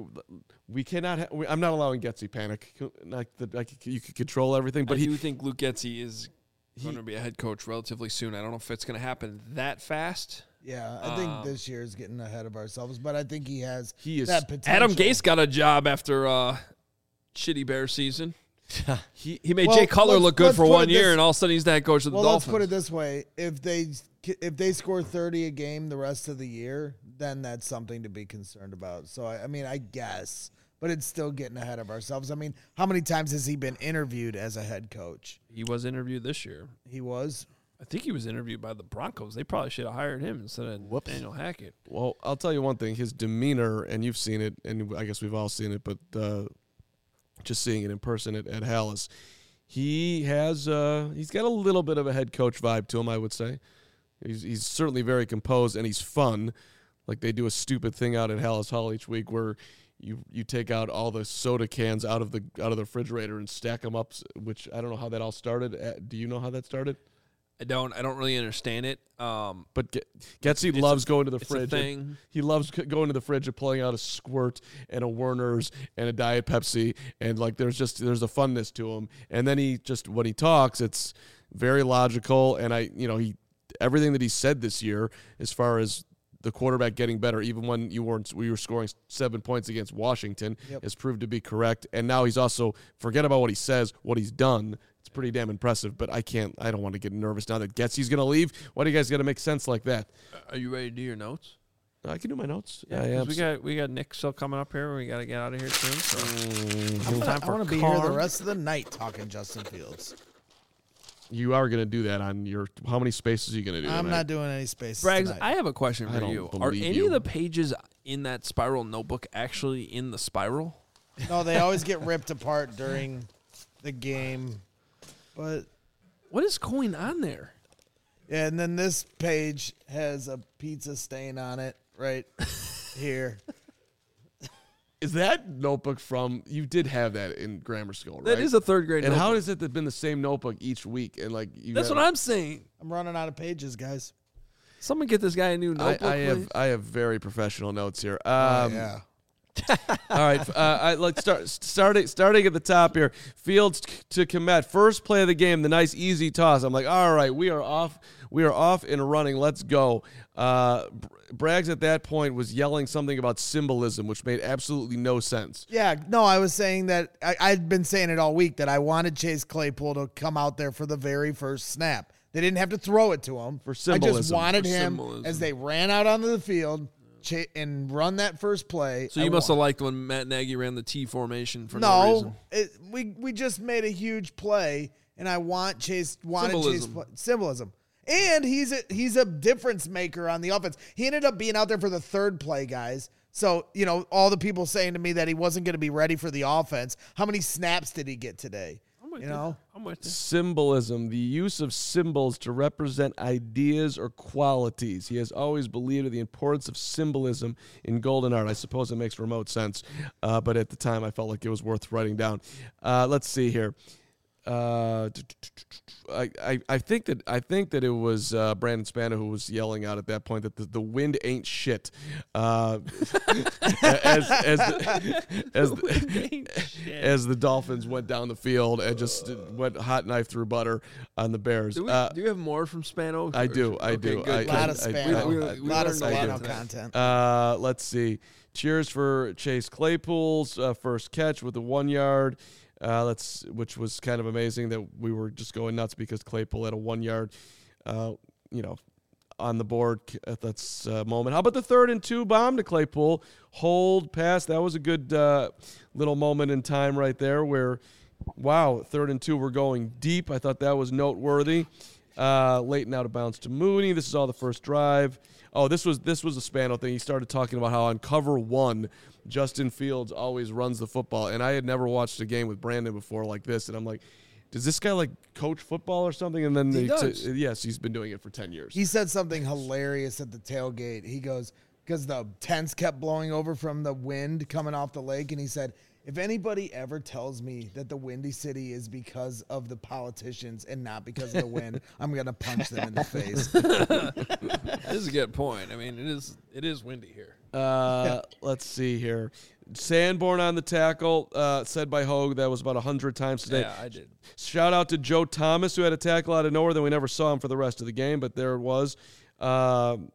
we cannot. Ha- we, I'm not allowing Getsy panic. Like the, like you can control everything, but I he do think Luke Getsy is going to be a head coach relatively soon. I don't know if it's going to happen that fast. Yeah, I think Um, this year is getting ahead of ourselves, but I think he has He is- that potential. Adam Gase got a job after uh, shitty Bear season. he He made Well, Jay Cutler let's- look good let's for put one it year, this- and all of a sudden he's the head coach of the Well, Dolphins. let's put it this way: if they if they score thirty a game the rest of the year, then that's something to be concerned about. So I, I mean, I guess, but it's still getting ahead of ourselves. I mean, how many times has he been interviewed as a head coach? He was interviewed this year. He was. I think he was interviewed by the Broncos. They probably should have hired him instead of Whoops. Daniel Hackett. Well, I'll tell you one thing. His demeanor, and you've seen it, and I guess we've all seen it, but uh, just seeing it in person at, at Hallis, he has uh, he's got a little bit of a head coach vibe to him, I would say. He's, he's certainly very composed, and he's fun. Like they do a stupid thing out at Hallis Hall each week where you you take out all the soda cans out of the out of the refrigerator and stack them up, which I don't know how that all started. Uh, Do you know how that started? I don't. I don't really understand it. Um, But Ge- Getsy It's loves a- going to the it's a fridge. and thing. He loves c- going to the fridge and pulling out a Squirt and a Werner's and a Diet Pepsi, and like there's just there's a funness to him. And then he just when he talks, it's very logical. And I, you know, he everything that he said this year as far as the quarterback getting better, even when you weren't we were scoring seven points against Washington, Yep. has proved to be correct. And now he's also forget about what he says, what he's done. It's pretty damn impressive, but I can't. I don't want to get nervous now that Getsy's going to leave. Why do you guys got to make sense like that? are you ready to do your notes? I can do my notes. Yeah, I 'cause am. we got we got Nick still coming up here. We got to get out of here soon. So Mm, time I for want to be here the Carr. rest of the night talking Justin Fields. you are going to do that on your. How many spaces are you going to do? I'm tonight? not doing any spaces Braggs, tonight. I have a question I for don't you. Are believe any you. of the pages in that spiral notebook actually in the spiral? No, they always get ripped apart during the game. But What is going on there? yeah, and then this page has a pizza stain on it right here. Is that notebook from? You did have that in grammar school, right? That is a third grade And notebook. how has it been the same notebook each week? And like you That's have- what I'm saying. I'm running out of pages, guys. Someone get this guy a new I, notebook, I have please. I have very professional notes here. Um, Oh, yeah. All right, uh, I, let's start starting starting at the top here. Fields to Komet, first play of the game, the nice easy toss. I'm like, all right, we are off, we are off and running. Let's go. Uh, Braggs at that point was yelling something about symbolism, which made absolutely no sense. Yeah, no, I was saying that I, I'd been saying it all week that I wanted Chase Claypool to come out there for the very first snap. They didn't have to throw it to him. For I just symbolism. wanted For him symbolism. as they ran out onto the field cha- and run that first play. So you I must have want- liked when Matt Nagy ran the T formation for no, no. reason. It, we we just made a huge play, and I want Chase wanted Chase Symbolism. play, symbolism. And he's a, he's a difference maker on the offense. He ended up being out there for the third play, guys. So, you know, all the people saying to me that he wasn't going to be ready for the offense. How many snaps did he get today? I'm with You know? I'm with you. Symbolism, the use of symbols to represent ideas or qualities. He has always believed in the importance of symbolism in golden art. I suppose it makes remote sense, uh, but at the time I felt like it was worth writing down. Uh, let's see here. Uh, I, I I think that I think that it was uh, Brandon Spano who was yelling out at that point that the, the wind ain't shit. Uh, as as the, as the, as the Dolphins went down the field and just went hot knife through butter on the Bears. Do, we, Uh, do you have more from Spano? I do, I Okay, do. good. I- A lot of I- I- Spano. we- we- A we lot of learned a lot Spano today. content. Uh, let's see. Cheers for Chase Claypool's uh, first catch with the one yard. Uh, let's, which was kind of amazing that we were just going nuts because Claypool had a one yard, uh, you know, on the board. That's a moment. How about the third and two bomb to Claypool? Hold pass. That was a good uh, little moment in time right there where, wow, third and two, we're going deep. I thought that was noteworthy. Uh, late and out of bounds to Mooney. This is all the first drive. Oh, this was this was a Spano thing. He started talking about how on cover one, Justin Fields always runs the football. And I had never watched a game with Brandon before like this. And I'm like, does this guy like coach football or something? And then He they does. t- yes, he's been doing it for ten years. He said something hilarious at the tailgate. He goes, because the tents kept blowing over from the wind coming off the lake, and he said, if anybody ever tells me that the Windy City is because of the politicians and not because of the wind, I'm going to punch them in the face. This is a good point. I mean, it is it is windy here. Uh, let's see here. Sanborn on the tackle, uh, said by Hogue. That was about one hundred times today. Yeah, I did. Shout out to Joe Thomas, who had a tackle out of nowhere. Then we never saw him for the rest of the game, but there it was. Um,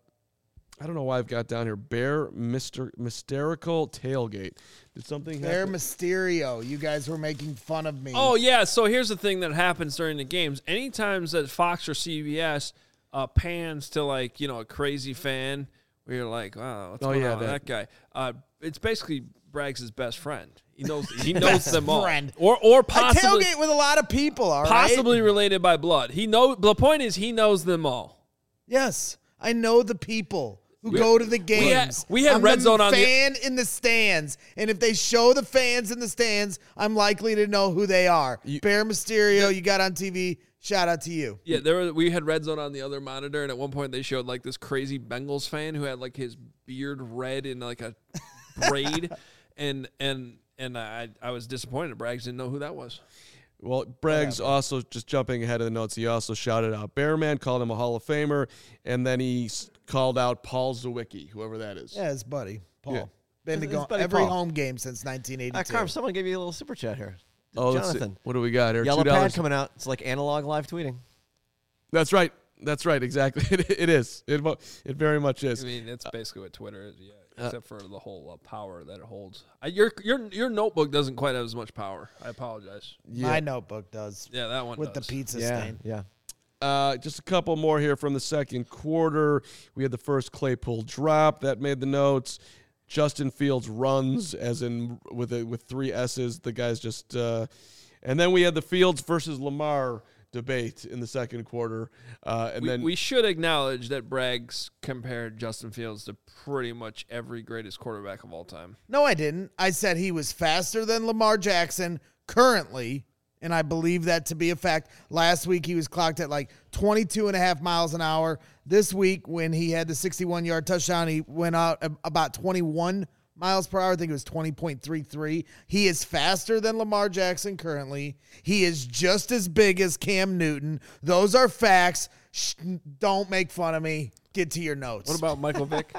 I don't know why I've got down here. Bear Mister Mysterical Tailgate. Did something Bear happen? Mysterio. You guys were making fun of me. Oh yeah. So here's the thing that happens during the games. Anytime that Fox or C B S uh, pans to like you know a crazy fan, where you're like, wow, what's Oh, going yeah, on with that- that guy? Uh, it's basically Braggs' best friend. He knows he knows them all, friend. or or I possibly tailgate with a lot of people, all right? possibly related by blood. He know the point is he knows them all. Yes, I know the people who go to the games. had- we had I'm Red the Zone on the- fan in the stands, and if they show the fans in the stands, I'm likely to know who they are. Bear Mysterio, you got on T V. Shout out to you. Yeah, there were, we had Red Zone on the other monitor, and at one point they showed like this crazy Bengals fan who had like his beard red in like a braid, and and and I I was disappointed. Braggs didn't know who that was. Well, Braggs also, just jumping ahead of the notes, he also shouted out Bearman, called him a Hall of Famer, and then he s- called out Paul Zawicki, whoever that is. Yeah, his buddy, Paul. Yeah. Been to His- his go buddy every Paul. home game since nineteen Uh, eighty-two. Carm, someone gave you a little super chat here. Oh, let's see. Jonathan. What do we got here? Yellow two dollars. pad coming out. It's like analog live tweeting. That's right. That's right. Exactly. It, it is. It, mo- it very much is. I mean, it's basically what Twitter is, yeah, except for the whole uh, power that it holds. I, your your your notebook doesn't quite have as much power. I apologize. My notebook does. Yeah, that one With does. the pizza Yeah, stain. yeah. Uh, just a couple more here from the second quarter. We had the first Claypool drop that made the notes. Justin Fields runs, as in with a, with three S's. The guy's just, uh, and then we had the Fields versus Lamar debate in the second quarter, uh, and We, then we should acknowledge that Braggs compared Justin Fields to pretty much every greatest quarterback of all time. No, I didn't. I said he was faster than Lamar Jackson currently, and I believe that to be a fact. Last week, he was clocked at like twenty-two and a half miles an hour. This week, when he had the sixty-one-yard touchdown, he went out a- about twenty-one miles per hour. I think it was twenty point three three. He is faster than Lamar Jackson currently. He is just as big as Cam Newton. Those are facts. Shh, don't make fun of me. Get to your notes. What about Michael Vick?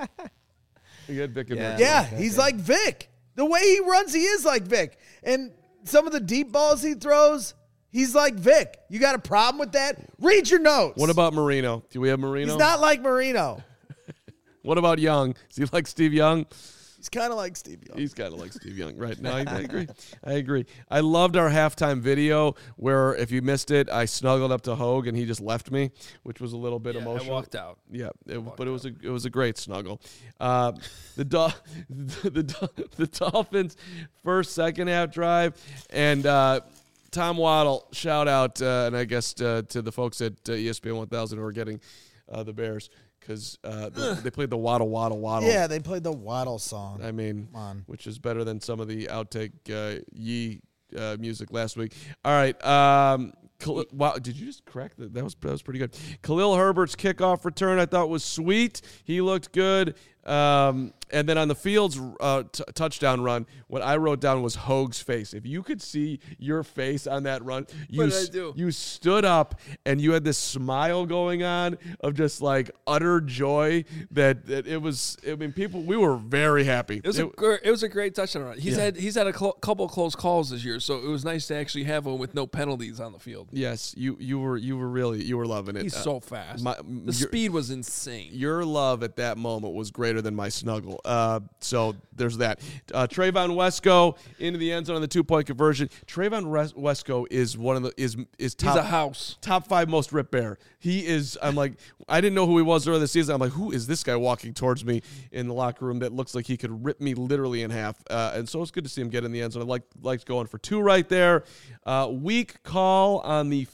you had Vic and Yeah. Vic. Yeah, he's like Vic. The way he runs, he is like Vic. And some of the deep balls he throws, he's like Vic. You got a problem with that? Read your notes. What about Marino? Do we have Marino? He's not like Marino. What about Young? Is he like Steve Young? He's kind of like Steve Young. He's kind of like Steve Young, right? No, I, I agree. I agree. I loved our halftime video where, if you missed it, I snuggled up to Hogue and he just left me, which was a little bit Yeah, emotional. I walked out. Yeah, it, but it was a it was a great snuggle. Uh, the, Dol- the the the Dolphins' first second half drive, and uh, Tom Waddle, shout out, uh, and I guess uh, to the folks at uh, E S P N one thousand who are getting uh, the Bears. Because uh, the, they played the Waddle, Waddle, Waddle. Yeah, they played the Waddle song. I mean, Come on. which is better than some of the outtake uh, Yee uh, music last week. All right. Um, Khal- wow, did you just correct that? That was, that was pretty good. Khalil Herbert's kickoff return I thought was sweet. He looked good. Um, and then on the Fields uh, t- touchdown run, what I wrote down was Hogue's face. If you could see your face on that run, you What did I s- do? you stood up and you had this smile going on of just like utter joy that, that it was. I mean, people, we were very happy. It was a gr- it was a great touchdown run. He's Yeah. had he's had a cl- couple close calls this year, so it was nice to actually have one with no penalties on the field. Yes, you you were you were really you were loving it. He's Uh, so fast. my- the your- speed was insane. Your love at that moment was greater than my snuggle. Uh, so there's that. Uh, Trayvon Wesco into the end zone on the two point conversion. Trayvon Res- Wesco is one of the is is top He's a house. top five most ripped bear. He is. I'm like, I didn't know who he was earlier this season. I'm like, who is this guy walking towards me in the locker room that looks like he could rip me literally in half? Uh, and so it's good to see him get in the end zone. I like liked going for two right there. Uh, weak call on the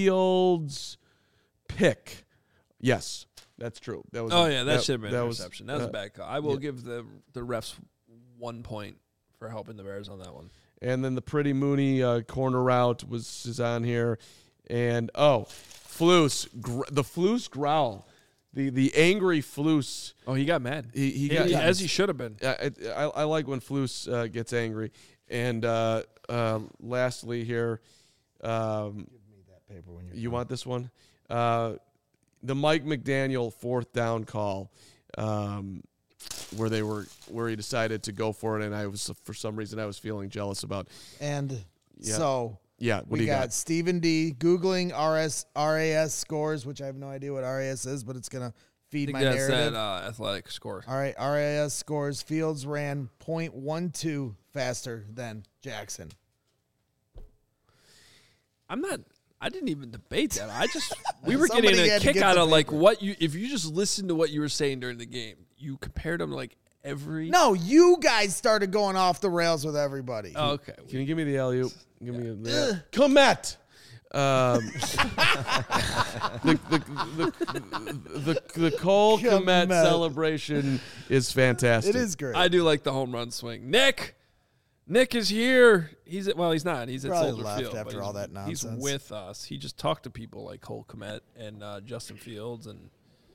Fields pick. Yes, that's true. That was. Oh a- yeah, that, should have been that an was- interception. That was uh, a bad call. I will yeah. give the the refs one point for helping the Bears on that one. And then the Pretty Mooney uh, corner route was is on here. And, oh, Flus, gr- the Flus growl, the the angry Flus. Oh, he got mad. He, he He- got, as he should have been. I, I, I like when Flus uh, gets angry. And uh, uh, lastly here, um, That paper when you're you want this one? Uh, the Mike McDaniel fourth down call, um, where they were where he decided to go for it, and I was for some reason I was feeling jealous about. And Yeah. so Yeah, what we do you got, got? Stephen D googling R S R A S scores, which I have no idea what R A S is, but it's gonna I feed think my that's narrative. that uh, athletic score. All right, R A S scores. Fields ran point one two faster than Jackson. I'm not. I didn't even debate that. I just we were Somebody getting a had to kick get out the of like paper. what you if you just listened to what you were saying during the game. You compared them to like every. No, you guys started going off the rails with everythly. Oh, okay. Can you give me the alley oop? Give me the Comet. Um, the, the, the, the, the Cole Komet Komet. celebration is fantastic. It is great. I do like the home run swing. Nick, Nick is here. He's at, well, he's not. He's at Probably Soldier left Field but after he's- all that He's nonsense. with us. He just talked to people like Cole Komet and uh, Justin Fields and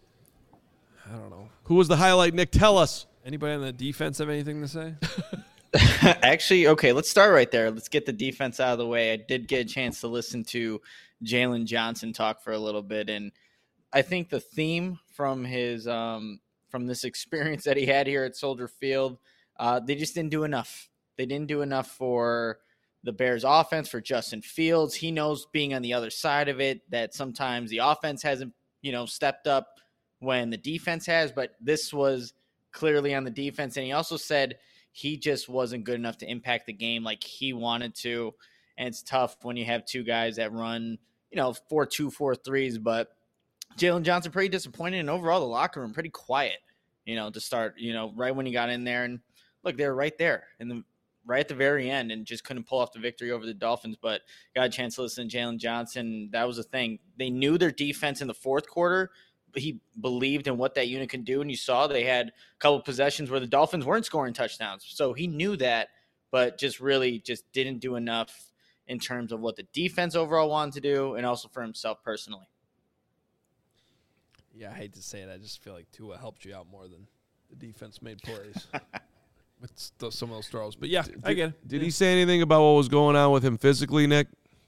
I don't know. Who was the highlight, Nick? Tell us. Anybody on the defense have anything to say? Actually, okay, let's start right there. Let's get the defense out of the way. I did get a chance to listen to Jalen Johnson talk for a little bit, and I think the theme from his um, from this experience that he had here at Soldier Field, uh, they just didn't do enough. They didn't do enough for the Bears' offense, for Justin Fields. He knows, being on the other side of it, that sometimes the offense hasn't, you know, stepped up when the defense has, but this was clearly on the defense. And he also said he just wasn't good enough to impact the game like he wanted to. And it's tough when you have two guys that run, you know, four two, four threes. But Jalen Johnson pretty disappointed, and overall the locker room pretty quiet, you know, to start, you know, right when he got in there. And look, they were right there in the right at the very end and just couldn't pull off the victory over the Dolphins. But got a chance to listen to Jalen Johnson. That was the thing. They knew their defense in the fourth quarter. He believed in what that unit can do, and you saw they had a couple of possessions where the Dolphins weren't scoring touchdowns. So he knew that, but just really just didn't do enough in terms of what the defense overall wanted to do and also for himself personally. Yeah, I hate to say it. I just feel like Tua helped you out more than the defense made plays with st- some of those throws. But yeah, I get it. Did he say anything about what was going on with him physically, Nick?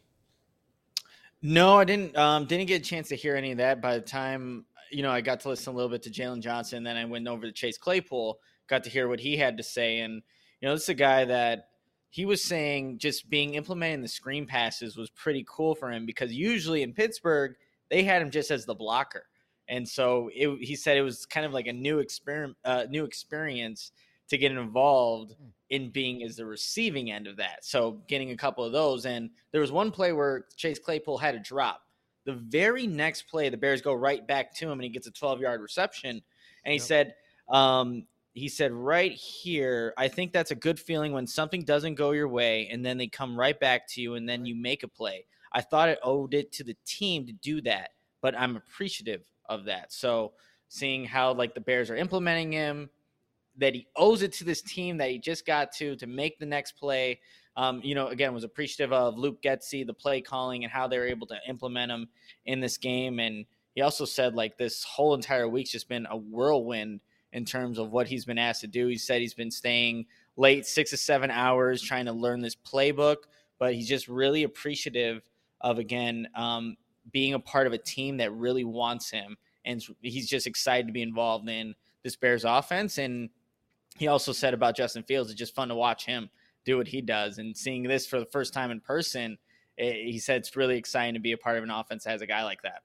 No, I didn't. Um, didn't get a chance to hear any of that. By the time you know, I got to listen a little bit to Jalen Johnson, then I went over to Chase Claypool, got to hear what he had to say, and you know, this is a guy that he was saying just being implementing the screen passes was pretty cool for him because usually in Pittsburgh they had him just as the blocker, and so it, he said it was kind of like a new experiment, uh, new experience to get involved in being as the receiving end of that. So getting a couple of those. And there was one play where Chase Claypool had a drop. The very next play, the Bears go right back to him and he gets a twelve-yard reception. And he yep. said, um, he said right here, I think that's a good feeling when something doesn't go your way and then they come right back to you and then you make a play. I thought it owed it to the team to do that, but I'm appreciative of that. So seeing how like the Bears are implementing him, that he owes it to this team that he just got to to make the next play. Um, you know, again, was appreciative of Luke Getsy, the play calling, and how they were able to implement him in this game. And he also said like this whole entire week's just been a whirlwind in terms of what he's been asked to do. He said he's been staying late six to seven hours trying to learn this playbook, but he's just really appreciative of, again, um, being a part of a team that really wants him. And he's just excited to be involved in this Bears offense. And he also said about Justin Fields, it's just fun to watch him do what he does. And seeing this for the first time in person, it, he said it's really exciting to be a part of an offense that has a guy like that.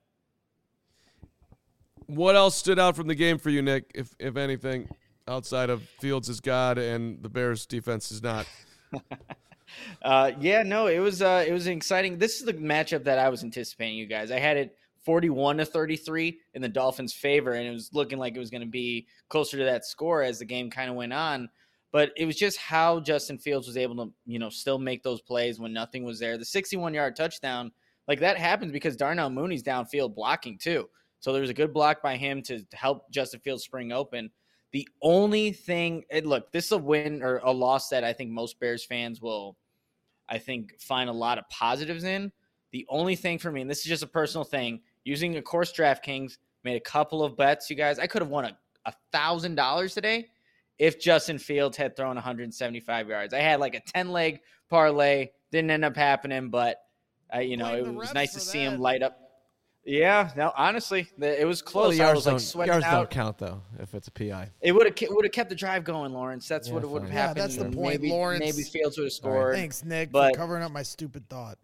What else stood out from the game for you, Nick, if if anything, outside of Fields is God and the Bears defense is not? uh, yeah, no, it was uh, it was exciting. This is the matchup that I was anticipating, you guys. I had it forty-one to thirty-three in the Dolphins' favor, and it was looking like it was going to be closer to that score as the game kind of went on. But it was just how Justin Fields was able to, you know, still make those plays when nothing was there. The sixty-one-yard touchdown, like that happens because Darnell Mooney's downfield blocking too. So there was a good block by him to help Justin Fields spring open. The only thing, and look, this is a win or a loss that I think most Bears fans will, I think, find a lot of positives in. The only thing for me, and this is just a personal thing, using, of course, DraftKings, made a couple of bets, you guys. I could have won a one thousand dollars today if Justin Fields had thrown one hundred seventy-five yards. I had like a ten-leg parlay. Didn't end up happening, but, uh, you know, it was nice to see him light up. Yeah, no, honestly, it was close. Well, the yards I was like don't, sweating yards out. don't count, though, if it's a P I. It would have would have kept the drive going, Lawrence. That's Yeah, what it would have fine. Yeah, happened. that's the And point, maybe, Lawrence. Maybe Fields would have scored. Thanks, Nick, but, for covering up my stupid thought.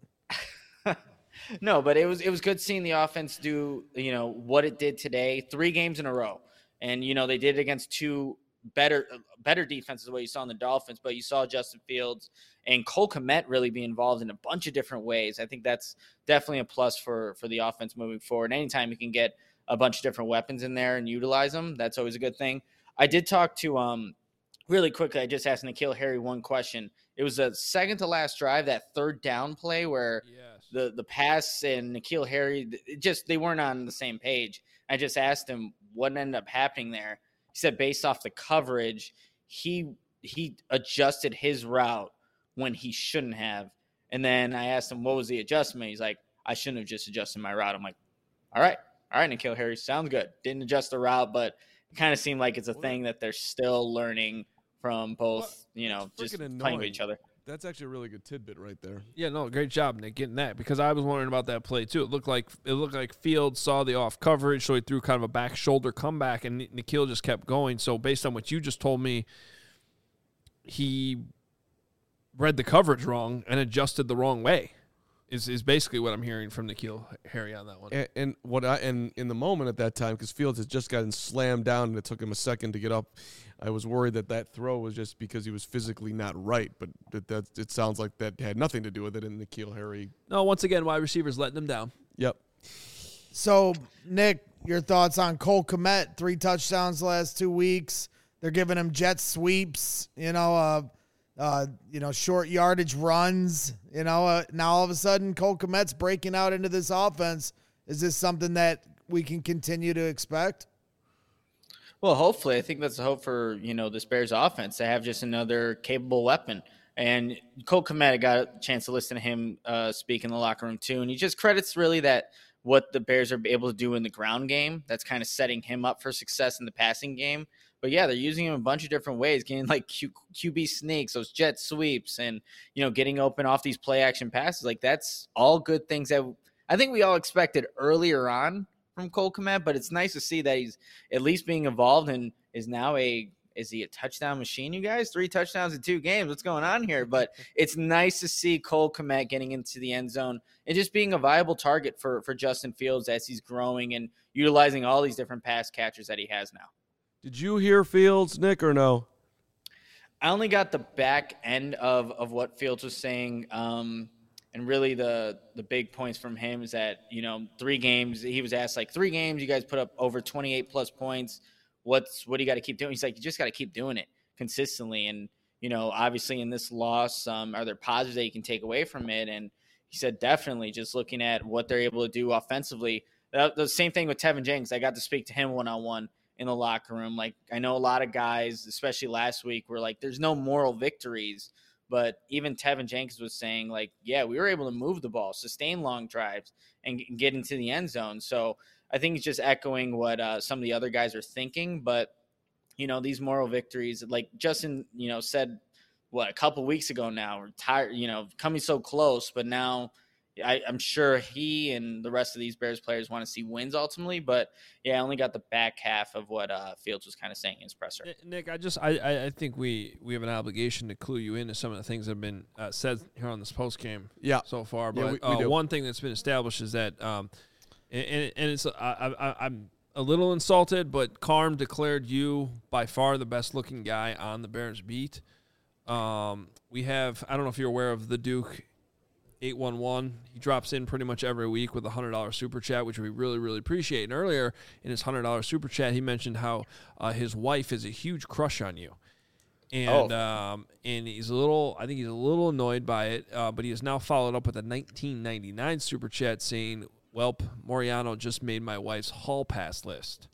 No, but it was it was good seeing the offense do, you know, what it did today, three games in a row. And, you know, they did it against two better better defenses, what you saw in the Dolphins, but you saw Justin Fields and Cole Kmet really be involved in a bunch of different ways. I think that's definitely a plus for, for the offense moving forward. Anytime you can get a bunch of different weapons in there and utilize them, that's always a good thing. I did talk to, um really quickly, I just asked N'Keal Harry one question. It was a second to last drive, that third down play where Yes. the, the pass and N'Keal Harry, it just they weren't on the same page. I just asked him what ended up happening there. He said based off the coverage, he he adjusted his route when he shouldn't have. And then I asked him, what was the adjustment? He's like, I shouldn't have just adjusted my route. I'm like, all right. All right, N'Keal Harry, sounds good. Didn't adjust the route, but it kind of seemed like it's a thing that they're still learning from both, you know, That's just freaking playing with annoying. each other. That's actually a really good tidbit right there. Yeah, no, great job, Nick, getting that, because I was wondering about that play too. It looked like it looked like Fields saw the off coverage, so he threw kind of a back shoulder comeback, and N'Keal just kept going. So based on what you just told me, he read the coverage wrong and adjusted the wrong way. Is is basically what I'm hearing from N'Keal Harry on that one. And, and what I and in the moment at that time, because Fields had just gotten slammed down and it took him a second to get up, I was worried that that throw was just because he was physically not right. But that, that it sounds like that had nothing to do with it. And N'Keal Harry, No, once again, wide receivers letting them down. yep. So, Nick, your thoughts on Cole Kmet? Three touchdowns the last two weeks. They're giving him jet sweeps, you know, uh, uh, you know, short yardage runs. You know, uh, now all of a sudden Cole Kmet's breaking out into this offense. Is this something that we can continue to expect? Well, hopefully. I think that's the hope for, you know, this Bears offense to have just another capable weapon. And Cole Kmet, I got a chance to listen to him uh, speak in the locker room too. And he just credits really that what the Bears are able to do in the ground game. That's kind of setting him up for success in the passing game. But yeah, they're using him a bunch of different ways, getting like Q, QB sneaks, those jet sweeps, and, you know, getting open off these play action passes. Like, that's all good things that I think we all expected earlier on from Cole Kmet, but it's nice to see that he's at least being involved and is now a, is he a touchdown machine, you guys? Three touchdowns in two games. What's going on here? But it's nice to see Cole Kmet getting into the end zone and just being a viable target for, for Justin Fields as he's growing and utilizing all these different pass catchers that he has now. Did you hear Fields, Nick, or no? I only got the back end of, of what Fields was saying. Um, and really the the big points from him is that, you know, three games, he was asked like three games, you guys put up over twenty-eight plus points. What's, what do you got to keep doing? He's like, you just got to keep doing it consistently. And, you know, obviously in this loss, um, are there positives that you can take away from it? And he said, definitely just looking at what they're able to do offensively. The, the same thing with Tevin Jenkins. I got to speak to him one-on-one in the locker room. Like, I know a lot of guys, especially last week, were like, there's no moral victories. But even Tevin Jenkins was saying, like, yeah, we were able to move the ball, sustain long drives, and get into the end zone. So I think it's just echoing what uh, some of the other guys are thinking. But, you know, these moral victories, like Justin, you know, said, what, a couple weeks ago now, we're tired, you know, coming so close. But now I, I'm sure he and the rest of these Bears players want to see wins ultimately. But, yeah, I only got the back half of what uh, Fields was kind of saying in his presser. Nick, I just I, I think we, we have an obligation to clue you into some of the things that have been uh, said here on this post game Yeah. so far. But Yeah, we- we uh, do. one thing that's been established is that, um, and, and it's I, I, I'm a little insulted, but Carm declared you by far the best looking guy on the Bears beat. Um, we have I don't know if you're aware of the Duke eight one one. He drops in pretty much every week with a one hundred dollars super chat, which we really, really appreciate. And earlier in his one hundred dollars super chat, he mentioned how uh, his wife is a huge crush on you. And Oh. um, and he's a little, I think he's a little annoyed by it, uh, but he has now followed up with a nineteen ninety-nine super chat saying, "Welp, Moriano just made my wife's hall pass list."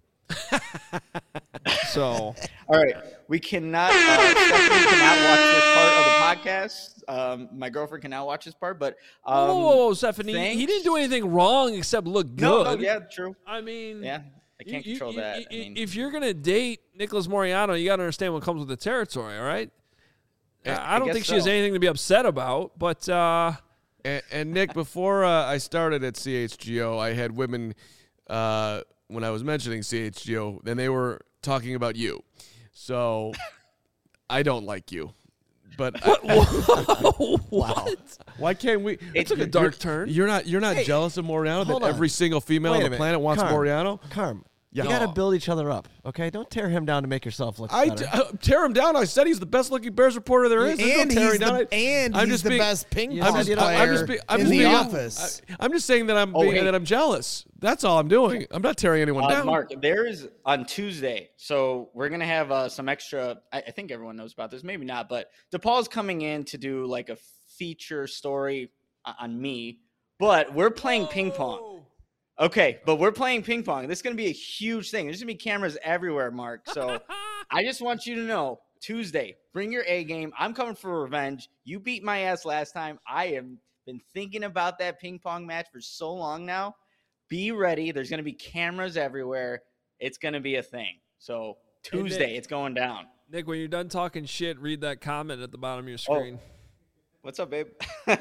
So, All right, we cannot. Uh, Stephanie cannot watch this part of the podcast. Um, my girlfriend cannot watch this part, but um, whoa, whoa, whoa, Stephanie, he thanks. didn't do anything wrong except look good. No, no, yeah, true. I mean, Yeah, I can't you- control you- that. you- I mean, if you're gonna date Nicholas Moriano, you got to understand what comes with the territory. All right. I- I don't I think guess she has so. anything to be upset about, but uh, And, and Nick, before uh, I started at C H G O, I had women uh, when I was mentioning C H G O, then they were talking about you. So I don't like you. But I, what? why can't we? It took a you're- dark turn. You're not. You're not Hey, jealous of Moriano that hold on. every single female Wait on a the minute. planet wants Carm. Moriano. Carm, Yeah. you got to build each other up, okay? Don't tear him down to make yourself look I better. d- uh, tear him down. I said he's the best looking Bears reporter there is. There's no And tearing he's down. the, and I'm he's just the being- best ping you pong know, you know, player I'm just, be, I'm in just the being, office. I, I'm just saying that I'm Oh, being, hey. that I'm jealous. That's all I'm doing. I'm not tearing anyone Uh, down. Mark, there's on Tuesday, so we're gonna have uh, some extra. I, I think everyone knows about this, maybe not, but DePaul's coming in to do like a feature story o- on me. But we're playing ping pong. Okay, but we're playing ping pong. This is gonna be a huge thing. There's gonna be cameras everywhere, Mark. So I just want you to know, Tuesday, bring your A game. I'm coming for revenge. You beat my ass last time. I have been thinking about that ping pong match for so long now. Be ready. There's going to be cameras everywhere. It's going to be a thing. So Tuesday, Nick. it's going down. Nick, when you're done talking shit, read that comment at the bottom of your Oh. screen. What's up, babe?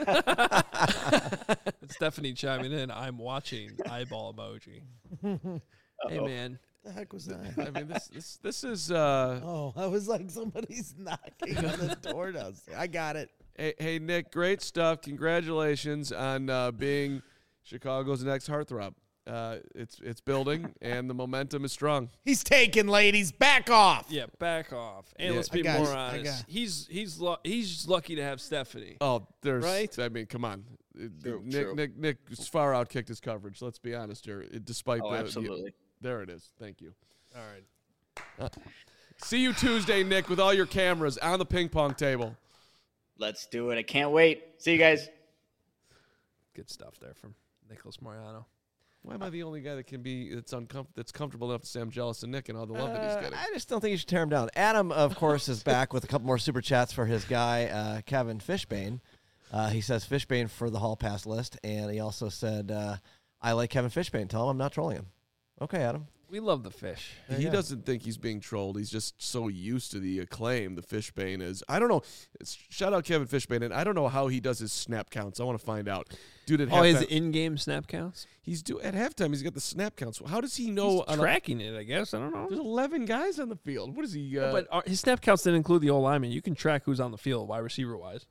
It's Stephanie chiming in. I'm watching eyeball emoji. Hey Uh-oh. man, the heck was that? I mean, this this this is. Uh, Oh, I was like, somebody's knocking on the door downstairs. I got it. hey, hey, Nick, great stuff. Congratulations on uh, being Chicago's next heartthrob. Uh, it's it's building and the momentum is strong. He's taken, ladies. Back off. yeah, back off. And Yeah. let's be I got more it. I honest. got it. He's he's lu- he's lucky to have Stephanie. Oh, there's. Right? I mean, come on. True, Nick, true. Nick, Nick, far outkicked his coverage. Let's be honest here. It- Despite Oh, the, absolutely. there it is. Thank you. All right. See you Tuesday, Nick, with all your cameras on the ping pong table. Let's do it. I can't wait. See you guys. Good stuff there from Nicholas Moriano. Why am I the only guy that can be that's uncom- that's comfortable enough to say I'm jealous of Nick and all the love that Uh, he's getting? I just don't think you should tear him down. Adam, of course, is back with a couple more super chats for his guy, uh, Kevin Fishbane. Uh, he says Fishbane for the hall pass list, and he also said, uh, I like Kevin Fishbane. Tell him I'm not trolling him. Okay, Adam. We love the fish. He Yeah. doesn't think he's being trolled. He's just so used to the acclaim the Fishbane is. I don't know. It's, shout out Kevin Fishbane, and I don't know how he does his snap counts. I want to find out. Dude, at Oh, his halftime, in-game snap counts. he's do at halftime. He's got the snap counts. How does he know? He's on a- tracking it, I guess. I don't know. there's eleven guys on the field. What is he? Uh, Yeah, but our, his snap counts didn't include the old lineman. You can track who's on the field, wide receiver wise.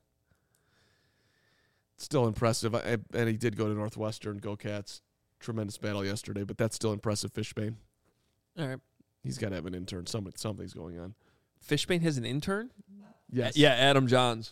still impressive. I, I- and he did go to Northwestern. Go Cats! Tremendous battle yesterday, but that's still impressive. Fishbane. All right. He's got to have an intern. Something, something's going on. Fishbane has an intern. Yes. Yeah, Adam Johns.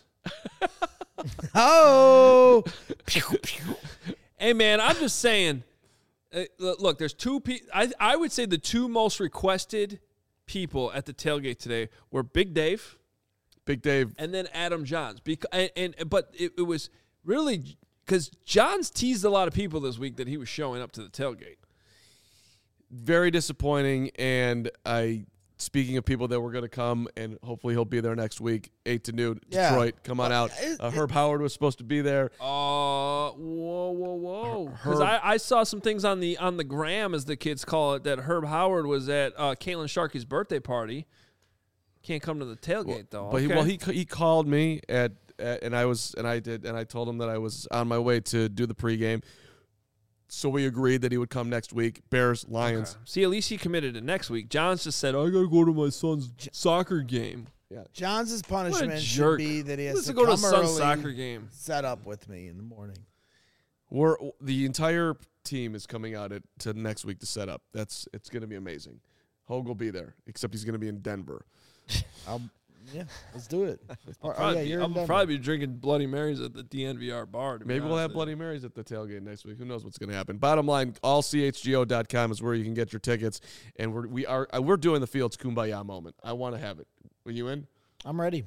Oh, Hey, man, I'm just saying. Uh, look, look, there's two people. I I would say the two most requested people at the tailgate today were Big Dave Big Dave. and then Adam Johns. Because and, and but it, it was really because Johns teased a lot of people this week that he was showing up to the tailgate. Very disappointing. And I, speaking of people that were going to come, and hopefully he'll be there next week, eight to noon, Yeah. Detroit. Come on out. it- Uh, Herb Howard was supposed to be there. Uh, whoa, whoa, whoa! Because Herb- I, I saw some things on the on the gram, as the kids call it, that Herb Howard was at uh, Caitlin Sharkey's birthday party. Can't come to the tailgate though. But he, Okay. well, he he called me at, at and I was and I did and I told him that I was on my way to do the pregame. So we agreed that he would come next week. Bears, Lions. Okay. See, at least he committed to next week. John's just said, "I gotta go to my son's soccer game." Johns' punishment should jerk. be that he has Let's to go to come his son's early, soccer game. set up with me in the morning. We're the entire team is coming out at, to next week to set up. That's it's going to be amazing. Hogue will be there, except he's going to be in Denver. I'll, yeah, let's do it. Or- oh, Probably yeah, be- you're I'll in Denver. probably be drinking Bloody Marys at the D N V R bar. To be Maybe we'll honest have with Bloody Marys at the tailgate next week. Who knows what's going to happen? Bottom line, all C H G O dot com is where you can get your tickets, and we're we are uh, we're doing the Fields Kumbaya moment. I want to have it. Are you in? I'm ready.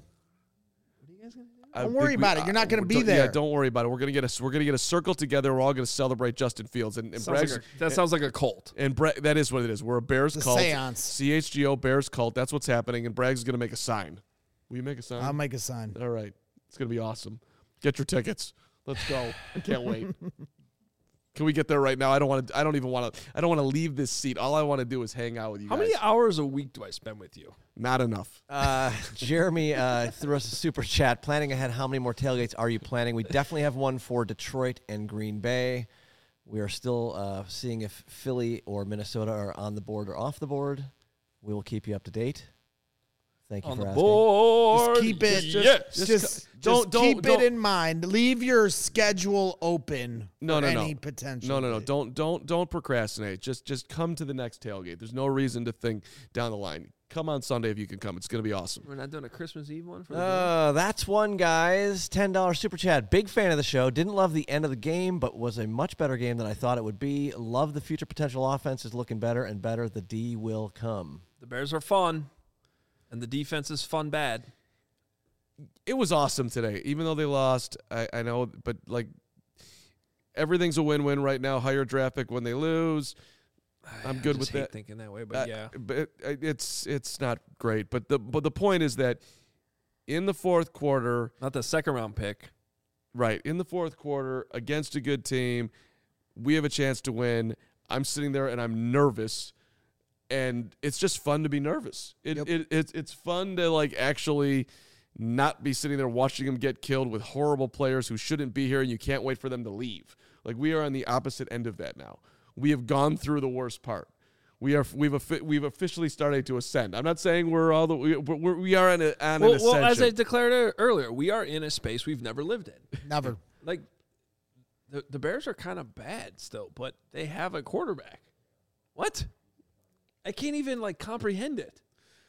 I Don't think worry we- about it. You're not gonna uh, be don't- there. Yeah, don't worry about it. We're gonna get a we're gonna get a circle together. We're all gonna celebrate Justin Fields and, and Sounds like Bragg's- a- that sounds like a cult. And Bra- that is what it is. We're a Bears It's a cult. seance. C H G O Bears cult. That's what's happening. And Bragg's going to make a sign. Will you make a sign? I'll make a sign. All right. It's going to be awesome. Get your tickets. Let's go. I can't wait. Can we get there right now? I don't want to. I don't even want to. I don't want to leave this seat. All I want to do is hang out with you How guys. many hours a week do I spend with you? Not enough. Uh, Jeremy uh, threw us a super chat. Planning ahead, how many more tailgates are you planning? We definitely have one for Detroit and Green Bay. We are still uh, seeing if Philly or Minnesota are on the board or off the board. We will keep you up to date. Thank you On for the asking. board. Just keep it. Yes. Just, Just just, don't- just don't- keep don't- it in mind. Leave your schedule open No, for no, no. any potential. No, no, no. Don't don't don't procrastinate. Just just come to the next tailgate. There's no reason to think down the line. Come on Sunday if you can come. It's going to be awesome. We're not doing a Christmas Eve one for the Uh, that's one, guys. ten dollars super chat. Big fan of the show. Didn't love the end of the game, but was a much better game than I thought it would be. Love the future potential offense is looking better and better. The D will come. The Bears are fun, and the defense is fun bad. It was awesome today, even though they lost. I, I know, but like everything's a win-win right now. Higher draft pick when they lose. I'm I good just with hate that. thinking that way, but Uh, yeah. but it, it's it's not great. But the but the point is that in the fourth quarter, Not the second round pick. right in the fourth quarter against a good team, we have a chance to win. I'm sitting there and I'm nervous, and it's just fun to be nervous. It, Yep. it it's it's fun to like actually not be sitting there watching them get killed with horrible players who shouldn't be here, and you can't wait for them to leave. Like we are on the opposite end of that now. We have gone through the worst part. We are we've offi- we've officially started to ascend. I'm not saying we're all the we we're, we are on, a, on Well, an well, ascension. as I declared e- earlier, we are in a space we've never lived in. Never. Like, the, the Bears are kind of bad still, but they have a quarterback. What? I can't even, like, comprehend it.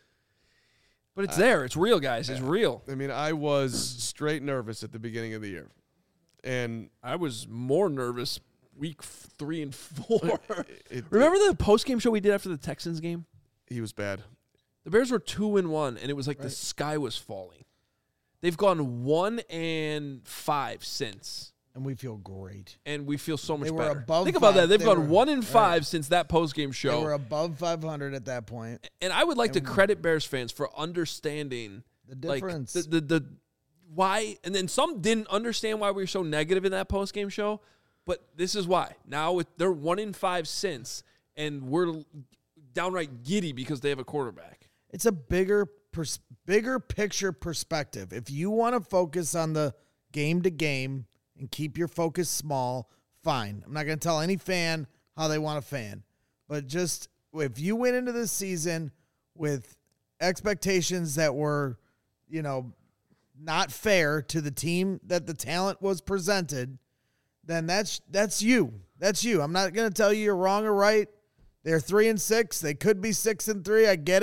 But it's there. It's real, guys. It's real. I mean, I was straight nervous at the beginning of the year, and I was more nervous week f- three and four. it, Remember the post-game show we did after the Texans game? he was bad. The Bears were two and one, and it was like the sky was falling. They've gone one and five since, And we feel great. and we feel so much They were better. above Think about five. that. They've They gone were- one and five right. since that post-game They show. were above five hundred at that point. And I would like to And- credit Bears fans for understanding The like, difference. the, the the why, and then some didn't understand why we were so negative in that post game show. But this is why. Now with they're one in five since, and we're downright giddy because they have a quarterback. It's a bigger pers- bigger picture perspective. If you want to focus on the game to game and keep your focus small, fine. I'm not going to tell any fan how they want to fan. But just if you went into this season with expectations that were, you know, not fair to the team that the talent was presented, then that's that's you. That's you. I'm not going to tell you you're wrong or right. They're three and six. They could be six and three. I get it.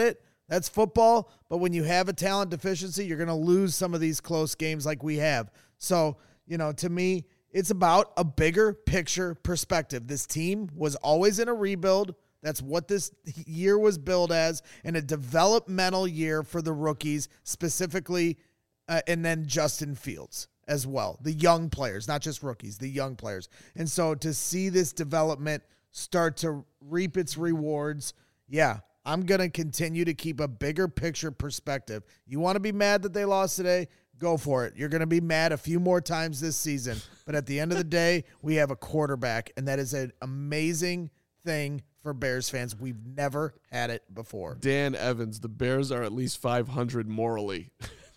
That's football, but when you have a talent deficiency, you're going to lose some of these close games like we have. So, you know, to me, it's about a bigger picture perspective. This team was always in a rebuild. That's what this year was billed as, and a developmental year for the rookies, specifically, uh, and then Justin Fields as well. The young players, not just rookies, the young players. And so to see this development start to reap its rewards, yeah, I'm going to continue to keep a bigger picture perspective. You want to be mad that they lost today? Go for it. You're going to be mad a few more times this season. But at the end of the day, we have a quarterback, and that is an amazing thing for Bears fans. We've never had it before. Dan Evans, the Bears are at least five hundred morally.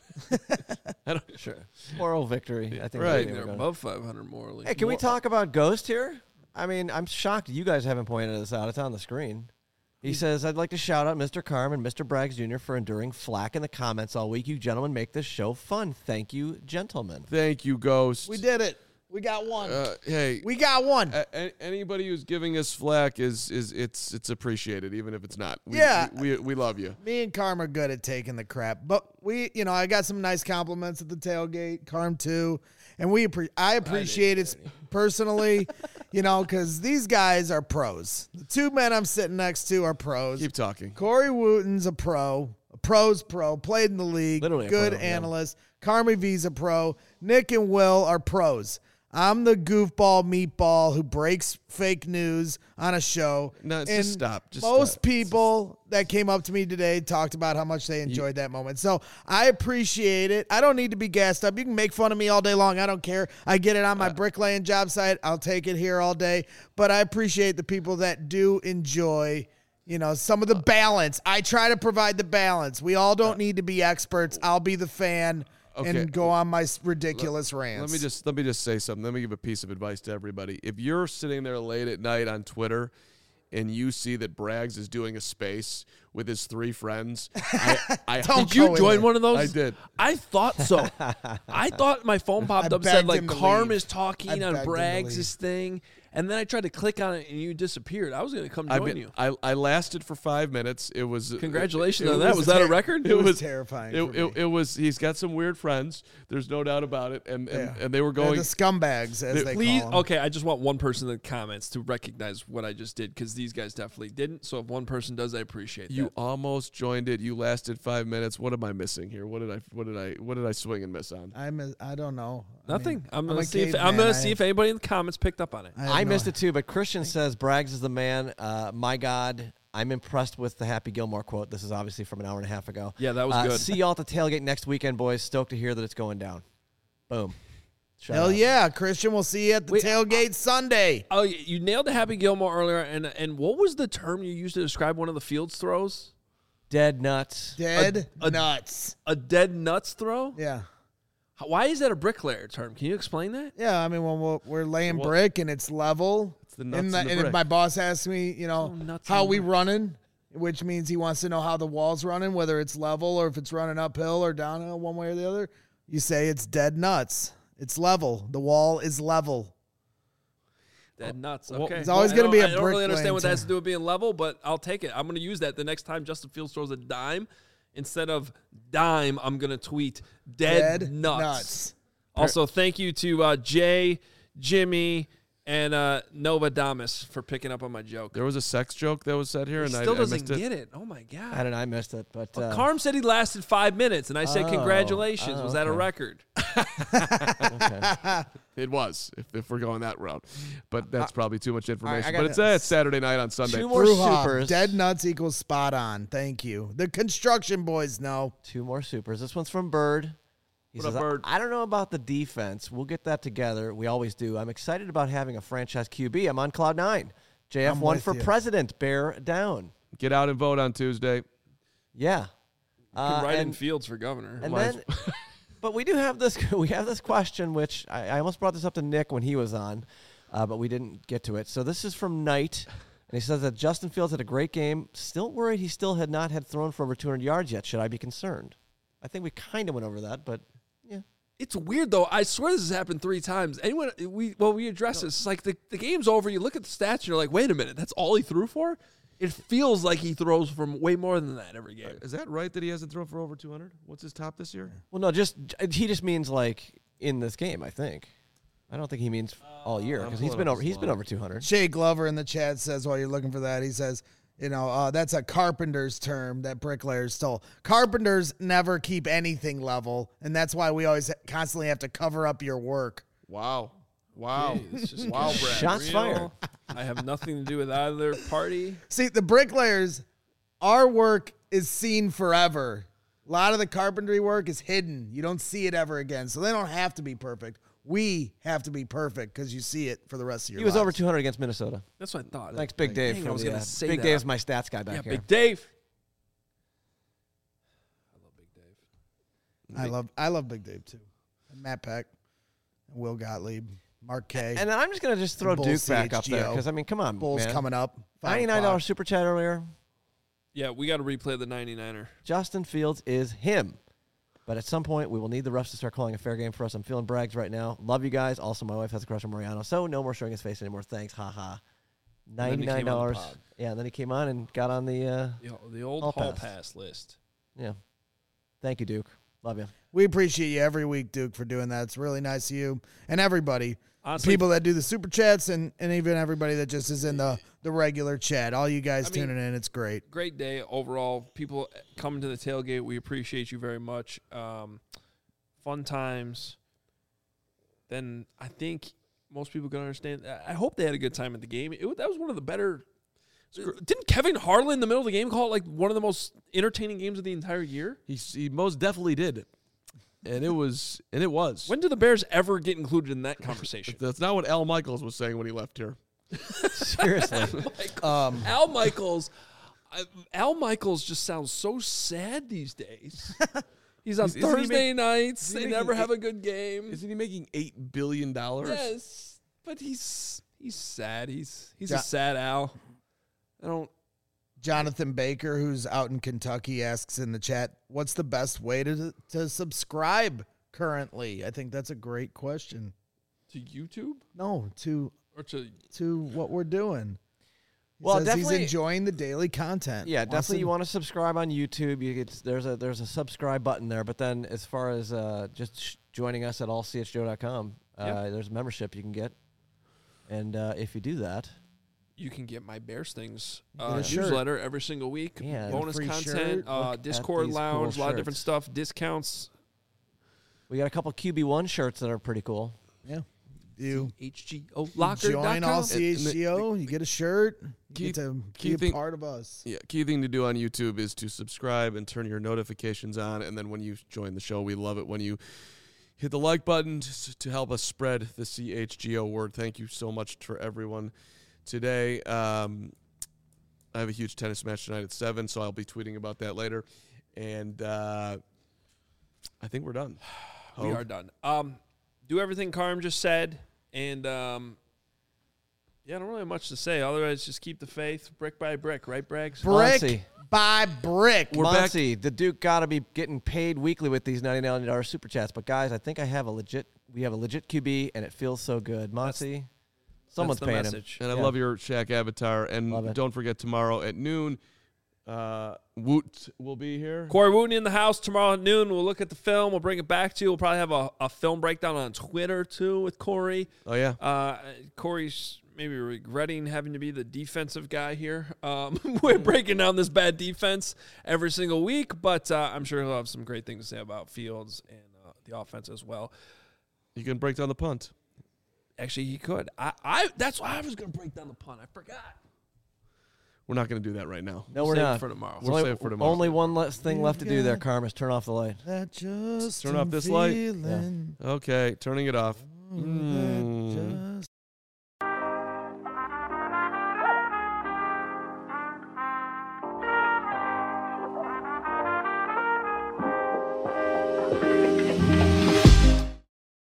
I don't sure. Moral victory. I think Right. that's They're where we're going. above five hundred morally. Hey, can we More- talk about Ghost here? I mean, I'm shocked you guys haven't pointed this out. It's on the screen. He says, I'd like to shout out Mister Carm and Mister Braggs Junior for enduring flack in the comments all week. You gentlemen make this show fun. Thank you, gentlemen. Thank you, Ghost. We did it. We got one. Uh, hey, we got one. a- a- anybody who's giving us flack is is it's it's appreciated, even if it's not. We, Yeah. we, we we love you. Me and Carm are good at taking the crap, but we, you know, I got some nice compliments at the tailgate. Carm too, and we, appre- I appreciate it personally, you know, because these guys are pros. The two men I'm sitting next to are pros. Keep talking. Corey Wooten's a pro, a pro's pro, played in the league, Literally a good pro, yeah. analyst. Carmi V's a pro. Nick and Will are pros. I'm the goofball meatball who breaks fake news on a show. No, just and stop. Just most stop. people that came up to me today talked about how much they enjoyed that moment. So I appreciate it. I don't need to be gassed up. You can make fun of me all day long. I don't care. I get it on my bricklaying job site. I'll take it here all day. But I appreciate the people that do enjoy, you know, some of the balance. I try to provide the balance. We all don't need to be experts. I'll be the fan. Okay. And go on my ridiculous rants. Let me just let me just say something. Let me give a piece of advice to everybody. If you're sitting there late at night on Twitter and you see that Braggs is doing a space with his three friends, I, I Don't Did you go in join there. one of those? I did. I thought so. I thought my phone popped I up and said begged like him to Carm leave. is talking I on begged him to Braggs' leave. thing, and then I tried to click on it and you disappeared. I was going to come I, join mean, you. I I lasted for five minutes. It was Congratulations it on that. Was that a record? It was terrifying It, for it, me. it was. He's got some weird friends. There's no doubt about it. And and, Yeah. and they were They're going. the scumbags, as they Please, call them. okay. I just want one person in the comments to recognize what I just did because these guys definitely didn't. So if one person does, I appreciate You that. almost joined it. You lasted five minutes. What am I missing here? What did I? What did I? What did I swing and miss on? I'm a, I don't know. I Nothing. mean, I'm a gonna see if caveman. I'm gonna I see have- if anybody in the comments picked up on it. I, have I no- missed it too, but Christian says Braggs is the man. Uh, my God, I'm impressed with the Happy Gilmore quote. This is obviously from an hour and a half ago. Yeah, that was Uh, good. See y'all at the tailgate next weekend, boys. Stoked to hear that it's going down. Boom. Shout Hell out. yeah, Christian. We'll see you at the Wait, tailgate Sunday. Oh, y- you nailed the Happy Gilmore earlier, and and what was the term you used to describe one of the Fields throws? Dead nuts. Dead a- nuts. A dead nuts throw? Yeah. How- Why is that a bricklayer term? Can you explain that? Yeah, I mean, when we're, we're laying Well, brick and it's level, it's the nuts and, in the, the and if brick. my boss asks me, you know, Oh, nuts how in we the- running, which means he wants to know how the wall's running, whether it's level or if it's running uphill or downhill, one way or the other, you say it's dead nuts. It's level. The wall is level. Dead nuts. well, Okay. it's always I gonna don't- be a I don't really understand bricklaying what that has term. to do with being level, but I'll take it. I'm going to use that the next time Justin Fields throws a dime. Instead of dime, I'm going to tweet dead, Dead nuts. nuts. Also, thank you to uh, Jay, Jimmy, and uh, Nova Damas for picking up on my joke. There was a sex joke that was said here, He and still I, I doesn't missed it. get it. Oh, my God. I don't know. I missed it, but uh, Carm said he lasted five minutes, and I said, Oh. congratulations. Oh, Was that a okay. record? okay. It was, if, if we're going that route. But that's probably too much information. I but got it's, uh, it's Saturday night on Sunday. Two more Bruja, supers. dead nuts equals spot on. Thank you. The construction boys know. Two more supers. This one's from Bird. He What up, says, Bird? I, I don't know about the defense. We'll get that together. We always do. I'm excited about having a franchise Q B. I'm on cloud nine. J F I'm one with for you. president. Bear down. Get out and vote on Tuesday. Yeah. Can Uh, write in and Fields for governor. and Might then, but we do have this. We have this question, which I, I almost brought this up to Nick when he was on, uh, but we didn't get to it. So this is from Knight, and he says that Justin Fields had a great game. Still worried he still had not had thrown for over two hundred yards yet. Should I be concerned? I think we kind of went over that, but yeah. It's weird though. I swear this has happened three times. Anyone we well we address this. It's like the, the game's over. You look at the stats. And you're like, wait a minute, that's all he threw for. It feels like he throws from way more than that every game. Is that right that he hasn't thrown for over two hundred? What's his top this year? Well, no, just he just means like in this game. I think. I don't think he means all year I'm because he's pulling been up over. his He's been line. over two hundred. Shay Glover in the chat says while you're looking for that, he says, you know, uh, that's a carpenter's term that bricklayers stole. Carpenters never keep anything level, and that's why we always constantly have to cover up your work. Wow. Wow. It's just wow, Brad. Shots real. fired. I have nothing to do with either party. See, the bricklayers, our work is seen forever. A lot of the carpentry work is hidden. You don't see it ever again, so they don't have to be perfect. We have to be perfect because you see it for the rest of your He was lives. over two hundred against Minnesota. That's what I thought. Thanks, Big Dave. Dang, for I was the, gonna uh, say Big that. Dave's my stats guy back Yeah, here. Big Dave. I love Big Dave. I love I love Big Dave too. And Matt Peck, and Will Gottlieb, Mark K. And then I'm just gonna just throw Bulls Duke back up there C H G O. because I mean, come on, Bulls man. coming up. five ninety-nine dollars o'clock. super chat earlier. Yeah, we got to replay the ninety-niner. Justin Fields is him. But at some point, we will need the refs to start calling a fair game for us. I'm feeling brags right now. Love you guys. Also, my wife has a crush on Mariano, so no more showing his face anymore. Thanks. Ha ha. then he came on the ninety-nine dollars. pod. Yeah, and then he came on and got on the, uh, The, the old Hall hall pass. pass list. yeah. Thank you, Duke. Love you. We appreciate you every week, Duke, for doing that. It's really nice of you and everybody. Honestly, People that do the super chats and, and even everybody that just is in the, the regular chat. All you guys I mean- tuning in, it's great. great day overall. People coming to the tailgate, we appreciate you very much. Um, fun times. Then I think most people can understand. I hope they had a good time at the game. It, wa- that was one of the better. Didn't Kevin Harlan in the middle of the game call it like one of the most entertaining games of the entire year? He, he most definitely did. And it was, and it was. When do the Bears ever get included in that conversation? That's not what Al Michaels was saying when he left here. Seriously. Um, Al Michaels, I, Al Michaels just sounds so sad these days. He's on Is- isn't he Thursday make- nights. he They making never have eight- a good game. Isn't he making eight billion dollars? Yes, but he's he's sad. He's he's Ja- a sad Al. I don't. Jonathan Baker, who's out in Kentucky, asks in the chat, what's the best way to to subscribe currently? I think that's a great question. To YouTube No, to or to to what we're doing. He Well, says definitely- he's enjoying the daily content. Yeah, Wants definitely. to- You want to subscribe on YouTube. You get there's a there's a subscribe button there. But then as far as uh, just sh- joining us at all c h joe dot com, uh, Yep. there's a membership you can get. And uh, if you do that, you can get my Bears things get uh, a shirt. newsletter every single week. Yeah, and a bonus free content, shirt. uh, Look at Discord these lounge, cool a lot of different shirts. stuff, discounts. we got a couple Q B one shirts that are pretty cool. Yeah. You H G O locker dot join all com. C H G O, you get a shirt, you Key- get to key be a thing- part of us. Yeah, key thing to do on YouTube is to subscribe and turn your notifications on. And then when you join the show, we love it when you hit the like button to, to help us spread the C H G O word. Thank you so much for everyone today. Um, I have a huge tennis match tonight at seven, so I'll be tweeting about that later. And uh, I think we're done. We Hope. are done. Um, do everything Carm just said, and um, yeah, I don't really have much to say. Otherwise, just keep the faith, brick by brick, right, Braggs? Brick Monty. by brick. We're back- Muncie, the Duke got to be getting paid weekly with these ninety-nine dollars super chats. But guys, I think I have a legit. We have a legit Q B, and it feels so good. Muncie, someone's That's the paying message. And I Yeah. love your Shaq avatar. And Love it. don't forget tomorrow at noon, uh, Woot will be here. Corey Wooten in the house tomorrow at noon. We'll look at the film. We'll bring it back to you. We'll probably have a, a film breakdown on Twitter, too, with Corey. Oh, yeah. Uh, Corey's maybe regretting having to be the defensive guy here. Um, we're breaking down this bad defense every single week, but uh, I'm sure he'll have some great things to say about Fields and uh, the offense as well. You can break down the punt. Actually, he could. I, I That's why I was going to break down the punt. I forgot. We're not going to do that right now. No, we're Save it not. for tomorrow. We'll only, save it for tomorrow. only one less thing left to do there, Yeah. Carm, is turn off the light. That just Turn off this light. feeling. Okay, turning it off. That Mm. just